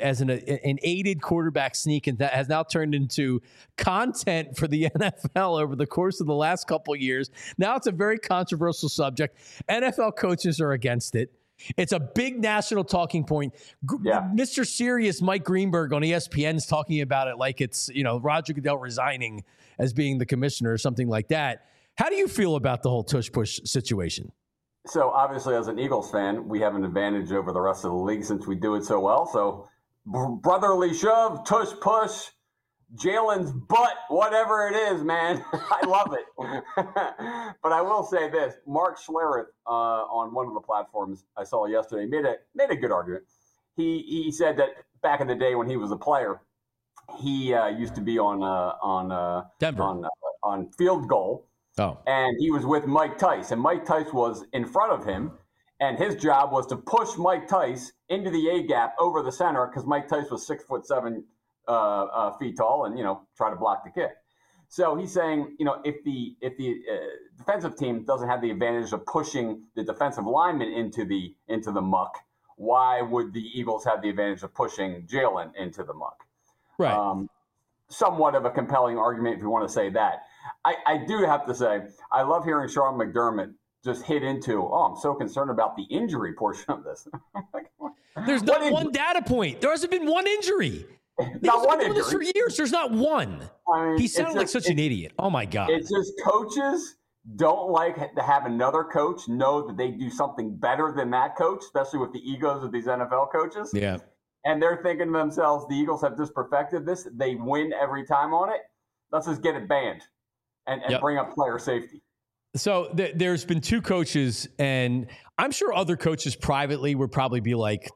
an aided quarterback sneak, and that has now turned into content for the NFL over the course of the last couple of years. Now it's a very controversial subject. NFL coaches are against it. It's a big national talking point. Yeah. Mr. Serious Mike Greenberg on ESPN is talking about it like it's, Roger Goodell resigning as being the commissioner or something like that. How do you feel about the whole tush push situation? So obviously, as an Eagles fan, we have an advantage over the rest of the league since we do it so well. So brotherly shove, tush push, Jalen's butt, whatever it is, man. I love it. But I will say this. Mark Schlereth on one of the platforms I saw yesterday made a good argument. He said that back in the day when he was a player, he used to be on Denver on Field Goal. Oh. And he was with Mike Tice, and Mike Tice was in front of him, and his job was to push Mike Tice into the A gap over the center because Mike Tice was 6'7" feet tall, and try to block the kick. So he's saying, if the defensive team doesn't have the advantage of pushing the defensive lineman into the muck, why would the Eagles have the advantage of pushing Jalen into the muck? Right. Somewhat of a compelling argument if you want to say that. I do have to say, I love hearing Sean McDermott just hit into, I'm so concerned about the injury portion of this. There's not one data point. There hasn't been one injury. Not one injury. This for years. There's not one. He sounded like such an idiot. Oh, my God. It's just coaches don't like to have another coach know that they do something better than that coach, especially with the egos of these NFL coaches. Yeah. And they're thinking to themselves, the Eagles have just perfected this. They win every time on it. Let's just get it banned and bring up player safety. So there's been two coaches, and I'm sure other coaches privately would probably be like,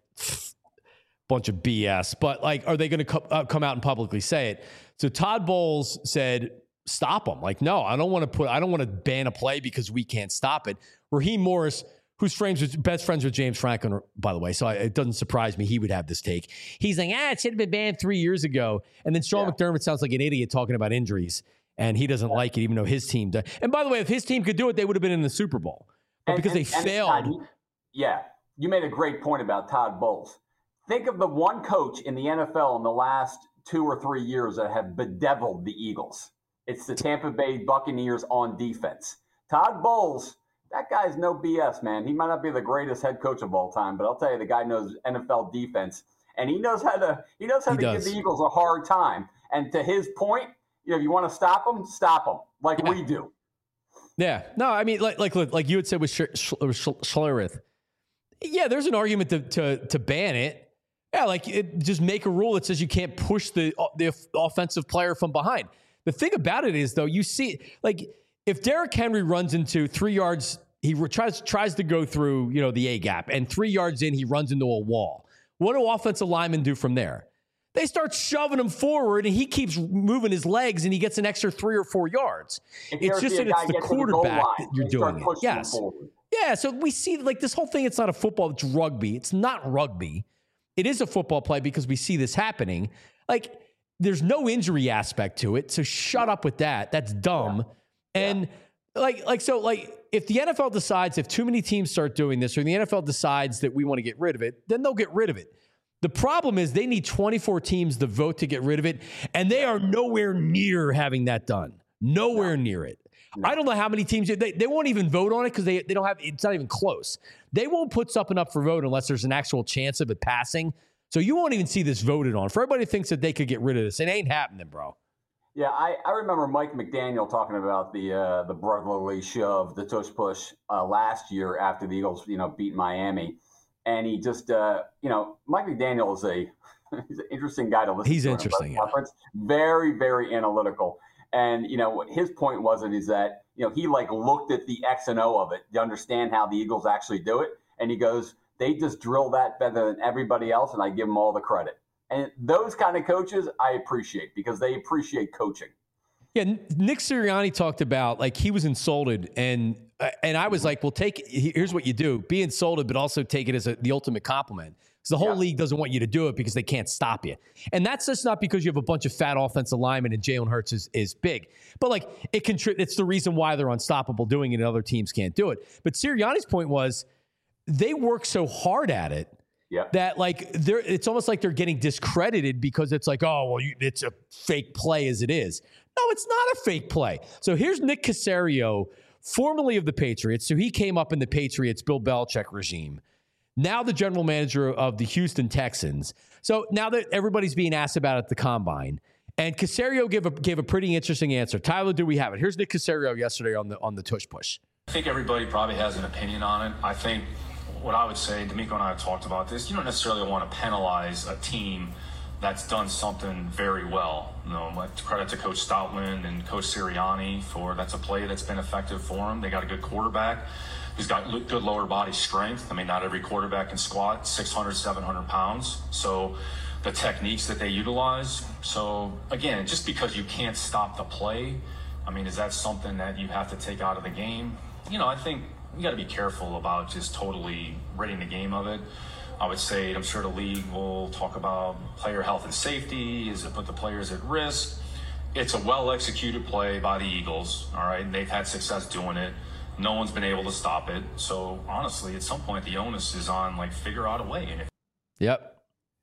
bunch of BS. But, like, are they going to come out and publicly say it? So Todd Bowles said, stop them. Like, no, I don't want to ban a play because we can't stop it. Raheem Morris, who's best friends with James Franklin, by the way, so it doesn't surprise me he would have this take. He's like, it should have been banned 3 years ago. And then Sean McDermott sounds like an idiot talking about injuries, and he doesn't like it, even though his team does. And by the way, if his team could do it, they would have been in the Super Bowl. But because they failed. You made a great point about Todd Bowles. Think of the one coach in the NFL in the last 2 or 3 years that have bedeviled the Eagles. It's the Tampa Bay Buccaneers on defense. Todd Bowles, that guy's no BS, man. He might not be the greatest head coach of all time, but I'll tell you, the guy knows NFL defense, and he knows how to give the Eagles a hard time. And to his point, if you want to stop them, like we do. Yeah. No, I mean, like you had said with Schlereth. Yeah, there's an argument to ban it. Yeah, just make a rule that says you can't push the offensive player from behind. The thing about it is, though, you see, like, if Derrick Henry runs into 3 yards, he tries to go through, the A gap, and 3 yards in, he runs into a wall. What do offensive linemen do from there? They start shoving him forward, and he keeps moving his legs, and he gets an extra 3 or 4 yards. It's just that it's the quarterback that you're doing it. Yes. Yeah, so we see, like, this whole thing, it's not a football, it's rugby. It's not rugby. It is a football play because we see this happening. Like, there's no injury aspect to it, so shut up with that. That's dumb. Yeah. And, if the NFL decides, if too many teams start doing this, or the NFL decides that we want to get rid of it, then they'll get rid of it. The problem is they need 24 teams to vote to get rid of it, and they are nowhere near having that done. Nowhere near it. I don't know how many teams, they won't even vote on it because they don't have, it's not even close. They won't put something up for vote unless there's an actual chance of it passing. So you won't even see this voted on. For everybody thinks that they could get rid of this, it ain't happening, bro. Yeah, I remember Mike McDaniel talking about the brotherly shove, the tush push last year after the Eagles, beat Miami. And he just, Mike McDaniel is he's an interesting guy to listen to. He's interesting. Yeah. Very, very analytical. And, what his point is that, he looked at the X and O of it to understand how the Eagles actually do it. And he goes, they just drill that better than everybody else. And I give them all the credit. And those kind of coaches I appreciate because they appreciate coaching. Yeah, Nick Sirianni talked about, like, he was insulted, and I was like, well, here's what you do. Be insulted, but also take it as the ultimate compliment. Because the whole league doesn't want you to do it because they can't stop you. And that's just not because you have a bunch of fat offensive linemen and Jalen Hurts is big. But, like, it's the reason why they're unstoppable doing it and other teams can't do it. But Sirianni's point was they work so hard at it that, like, it's almost like they're getting discredited because it's like, oh, well, it's a fake play as it is. No, it's not a fake play. So here's Nick Caserio, formerly of the Patriots. So he came up in the Patriots, Bill Belichick regime. Now the general manager of the Houston Texans. So now that everybody's being asked about it at the Combine, and Caserio gave a pretty interesting answer. Tyler, do we have it? Here's Nick Caserio yesterday on the tush push. I think everybody probably has an opinion on it. I think what I would say, D'Amico and I have talked about this, you don't necessarily want to penalize a team that's done something very well. Credit to Coach Stoutland and Coach Sirianni that's a play that's been effective for them. They got a good quarterback who's got good lower body strength. I mean, not every quarterback can squat 600, 700 pounds. So the techniques that they utilize. So again, just because you can't stop the play, I mean, is that something that you have to take out of the game? I think you got to be careful about just totally ridding the game of it. I would say, I'm sure the league will talk about player health and safety. Is it put the players at risk? It's a well-executed play by the Eagles, all right? And they've had success doing it. No one's been able to stop it. So, honestly, at some point, the onus is on, figure out a way. Yep.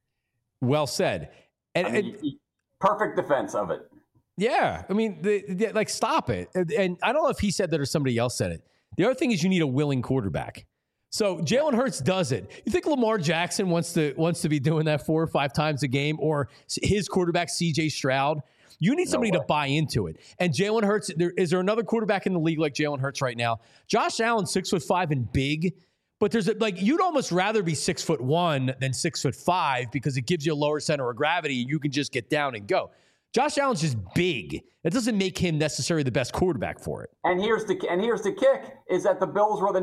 Well said. And perfect defense of it. Yeah. I mean, stop it. And I don't know if he said that or somebody else said it. The other thing is you need a willing quarterback. So Jalen Hurts does it. You think Lamar Jackson wants to be doing that 4 or 5 times a game, or his quarterback CJ Stroud? You need somebody to buy into it. And Jalen Hurts, is there another quarterback in the league like Jalen Hurts right now? Josh Allen, 6'5" and big, but you'd almost rather be 6'1" than 6'5" because it gives you a lower center of gravity and you can just get down and go. Josh Allen's just big. It doesn't make him necessarily the best quarterback for it. And here's the kick is that the Bills were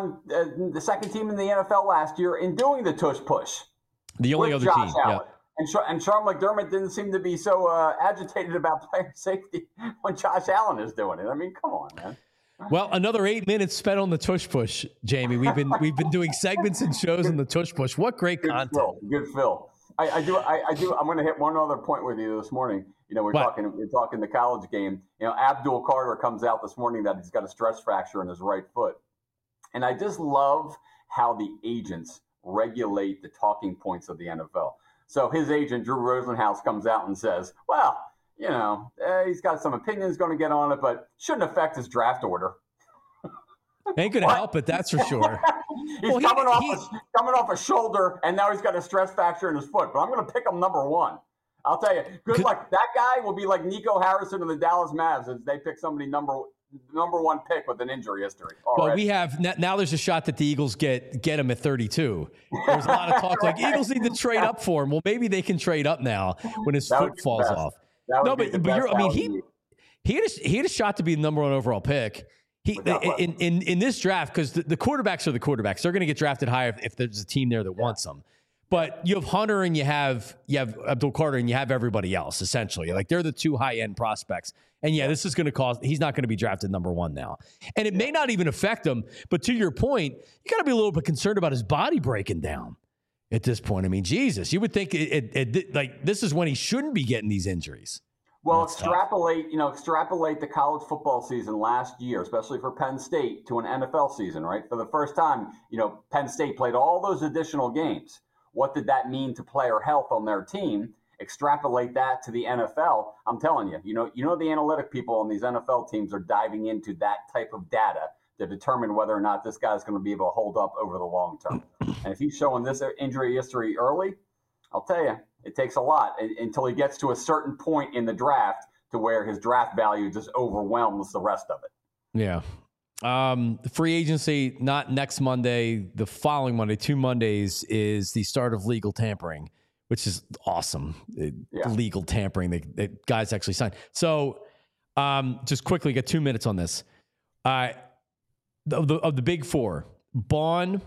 the second team in the NFL last year in doing the tush push. The only other Josh team. Allen. Yeah. And Sean McDermott didn't seem to be so agitated about player safety when Josh Allen is doing it. I mean, come on, man. Well, another 8 minutes spent on the tush push, Jamie. We've been doing segments and shows on the tush push. What great content. Good Phil. I do. I'm going to hit one other point with you this morning. We're talking the college game. Abdul Carter comes out this morning that he's got a stress fracture in his right foot. And I just love how the agents regulate the talking points of the NFL. So his agent, Drew Rosenhaus, comes out and says, well, he's got some opinions going to get on it, but shouldn't affect his draft order. Ain't going to help it, that's for sure. He's coming off a shoulder, and now he's got a stress fracture in his foot. But I'm going to pick him number 1. I'll tell you, good luck. That guy will be like Nico Harrison of the Dallas Mavs as they pick somebody number 1 pick with an injury history. Well, we have now. There's a shot that the Eagles get him at 32. There's a lot of talk like Eagles need to trade up for him. Well, maybe they can trade up now when his foot falls off. he had a shot to be the number 1 overall pick. In this draft, because the quarterbacks are the quarterbacks. They're going to get drafted high if there's a team there that wants them. But you have Hunter and you have Abdul Carter and you have everybody else, essentially. Like, they're the 2 high-end prospects. And, this is going to cause – he's not going to be drafted number 1 now. And it may not even affect him. But to your point, you got to be a little bit concerned about his body breaking down at this point. I mean, Jesus, you would think like this is when he shouldn't be getting these injuries. Well, extrapolate the college football season last year, especially for Penn State, to an NFL season, right? For the first time, Penn State played all those additional games. What did that mean to player health on their team? Extrapolate that to the NFL. I'm telling you, the analytic people on these NFL teams are diving into that type of data to determine whether or not this guy's going to be able to hold up over the long term. And if he's showing this injury history early, I'll tell you, it takes a lot until he gets to a certain point in the draft to where his draft value just overwhelms the rest of it. Yeah. Free agency, not next Monday, the following Monday, 2 Mondays, is the start of legal tampering, which is awesome. Legal tampering, the guys actually signed. So just quickly, get 2 minutes on this. Of the big 4, Bond,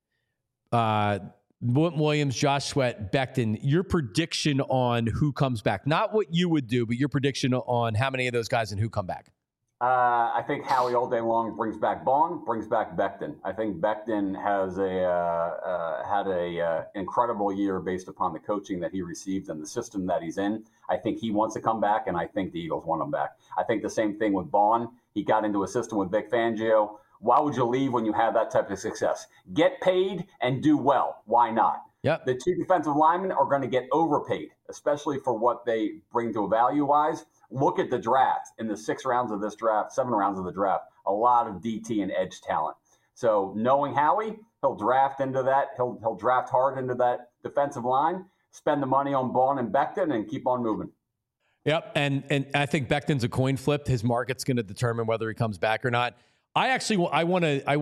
Williams, Josh Sweat, Becton, your prediction on who comes back. Not what you would do, but your prediction on how many of those guys and who come back. I think Howie all day long brings back Bond, brings back Becton. I think Becton has had a incredible year based upon the coaching that he received and the system that he's in. I think he wants to come back, and I think the Eagles want him back. I think the same thing with Bond. He got into a system with Vic Fangio. Why would you leave when you have that type of success? Get paid and do well. Why not? Yep. The 2 defensive linemen are going to get overpaid, especially for what they bring to a value-wise. Look at the draft. In the 6 rounds of this draft, 7 rounds of the draft, a lot of DT and edge talent. So knowing Howie, he'll draft into that. He'll draft hard into that defensive line, spend the money on Bond and Becton, and keep on moving. Yep, and I think Becton's a coin flip. His market's going to determine whether he comes back or not. I want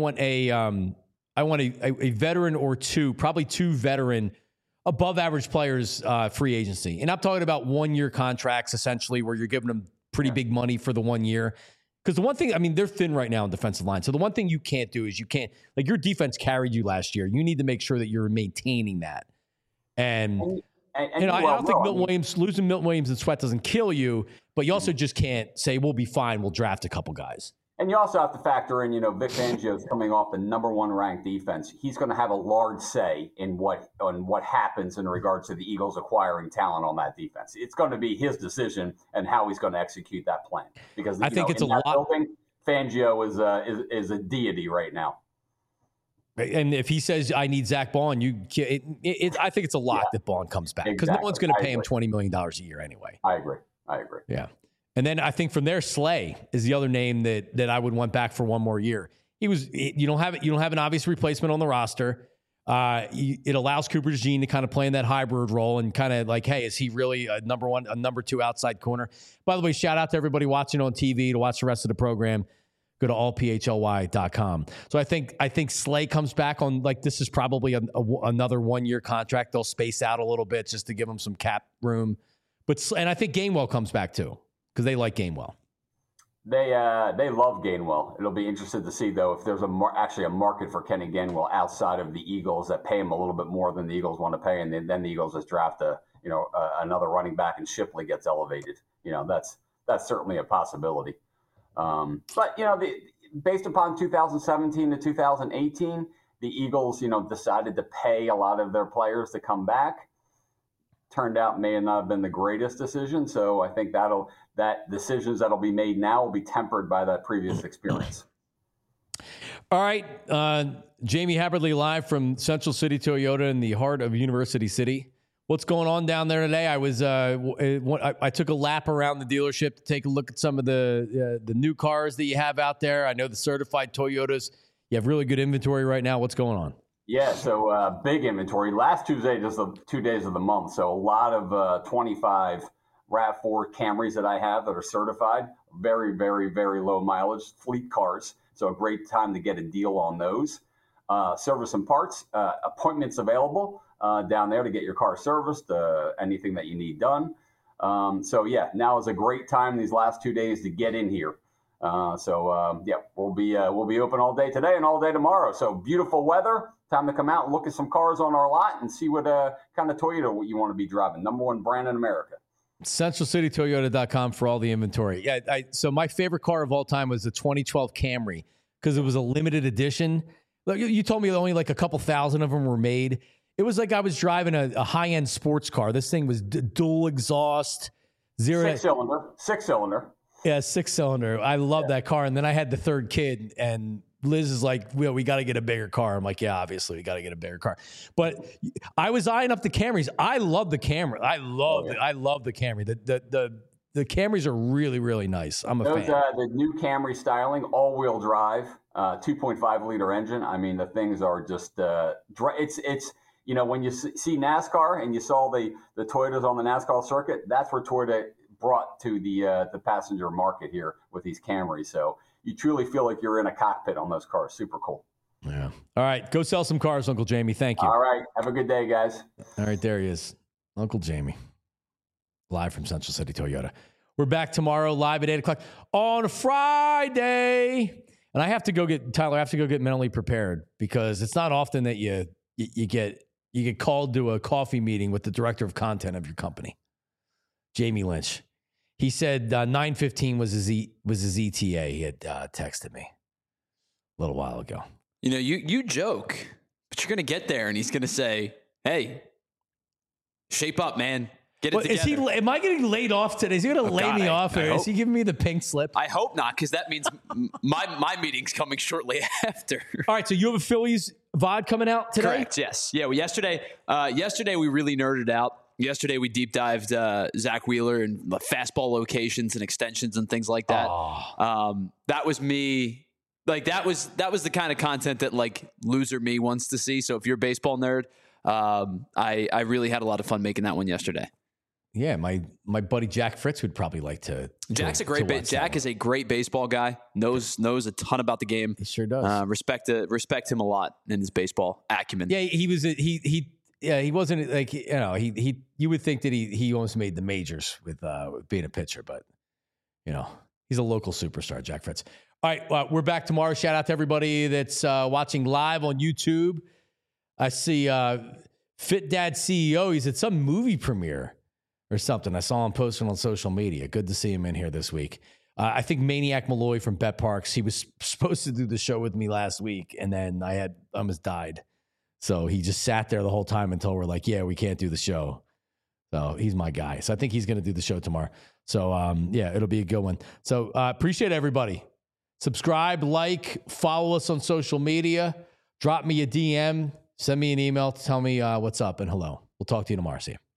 a veteran or 2, probably 2 veteran above average players free agency. And I'm talking about 1-year contracts, essentially, where you're giving them pretty big money for the 1 year. Because the one thing, I mean, they're thin right now in defensive line. So the one thing you can't do is your defense carried you last year. You need to make sure that you're maintaining that. And I don't think losing Milton Williams and Sweat doesn't kill you, but you also just can't say, we'll be fine, we'll draft a couple guys. And you also have to factor in, Vic Fangio is coming off the number 1 ranked defense. He's going to have a large say in what happens in regards to the Eagles acquiring talent on that defense. It's going to be his decision and how he's going to execute that plan. Because I think it's a lot. Building, Fangio is a deity right now. And if he says, I need Zach Bond, I think it's a lot that Bond comes back. Because no one's going to pay him $20 million a year anyway. I agree. Yeah. And then I think from there, Slay is the other name that I would want back for 1 more year. You don't have an obvious replacement on the roster. It allows Cooper DeJean to kind of play in that hybrid role and kind of like, hey, is he really a number 2 outside corner? By the way, shout out to everybody watching on TV to watch the rest of the program. Go to allphly.com. So I think Slay comes back on, like, this is probably another 1-year contract. They'll space out a little bit just to give him some cap room. And I think Gainwell comes back too, because they like Gainwell. They love Gainwell. It'll be interesting to see, though, if there's actually a market for Kenny Gainwell outside of the Eagles that pay him a little bit more than the Eagles want to pay, and then the Eagles just draft another running back and Shipley gets elevated. That's certainly a possibility. But based upon 2017 to 2018, the Eagles decided to pay a lot of their players to come back. Turned out may not have been the greatest decision. So I think that decisions that'll be made now will be tempered by that previous experience. All right. Jamie Haberly live from Central City Toyota in the heart of University City. What's going on down there today? I took a lap around the dealership to take a look at some of the new cars that you have out there. I know the certified Toyotas. You have really good inventory right now. What's going on? Yeah, so big inventory. Last Tuesday, just the 2 days of the month. So a lot of 25 RAV4 Camrys that I have that are certified. Very, very, very low mileage fleet cars. So a great time to get a deal on those. Service and parts, appointments available down there to get your car serviced, anything that you need done. So yeah, now is a great time these last 2 days to get in here. We'll be open all day today and all day tomorrow. So beautiful weather. Time to come out and look at some cars on our lot and see what kind of Toyota you want to be driving. Number one brand in America. CentralCityToyota.com for all the inventory. Yeah, so my favorite car of all time was the 2012 Camry because it was a limited edition. Like you told me only like a couple thousand of them were made. It was like I was driving a high-end sports car. This thing was dual exhaust, Six cylinder. Yeah, 6-cylinder. I love that car. And then I had the third kid, and Liz is like, well, we got to get a bigger car. I'm like, yeah, obviously, we got to get a bigger car. But I was eyeing up the Camrys. I love the Camry. I love the Camry. The Camrys are really, really nice. I'm a fan. The new Camry styling, all-wheel drive, 2.5-liter engine. I mean, the things are just it's when you see NASCAR and you saw the Toyotas on the NASCAR circuit, that's where Toyota brought to the passenger market here with these Camrys. So you truly feel like you're in a cockpit on those cars. Super cool. Yeah. All right. Go sell some cars, Uncle Jamie. Thank you. All right. Have a good day, guys. All right. There he is. Uncle Jamie. Live from Central City Toyota. We're back tomorrow live at 8 o'clock on Friday. And I have to go get mentally prepared because it's not often that you get called to a coffee meeting with the director of content of your company, Jamie Lynch. He said 9:15 was his ETA. He had texted me a little while ago. You joke, but you're going to get there and he's going to say, hey, shape up, man. Get it together. Am I getting laid off today? Is he going to lay me off? Or is he giving me the pink slip? I hope not, because that means my meeting's coming shortly after. All right, so you have a Phillies VOD coming out today? Correct, yes. Yeah, well, yesterday we really nerded out. Yesterday we deep dived Zach Wheeler and fastball locations and extensions and things like that. That was me. Like that was the kind of content that like loser me wants to see. So if you're a baseball nerd, I really had a lot of fun making that one yesterday. Yeah, my buddy Jack Fritz would probably like to. Jack is a great baseball guy. Knows a ton about the game. He sure does. Respect him a lot in his baseball acumen. Yeah, he wasn't like you would think that he almost made the majors with being a pitcher, but he's a local superstar, Jack Fritz. All right, we're back tomorrow. Shout out to everybody that's watching live on YouTube. I see Fit Dad CEO. He's at some movie premiere or something. I saw him posting on social media. Good to see him in here this week. I think Maniac Malloy from Bet Parks, he was supposed to do the show with me last week, and then I almost died. So he just sat there the whole time until we're like, yeah, we can't do the show. So he's my guy. So I think he's going to do the show tomorrow. So, it'll be a good one. So appreciate everybody. Subscribe, like, follow us on social media. Drop me a DM. Send me an email to tell me what's up and hello. We'll talk to you tomorrow. See you.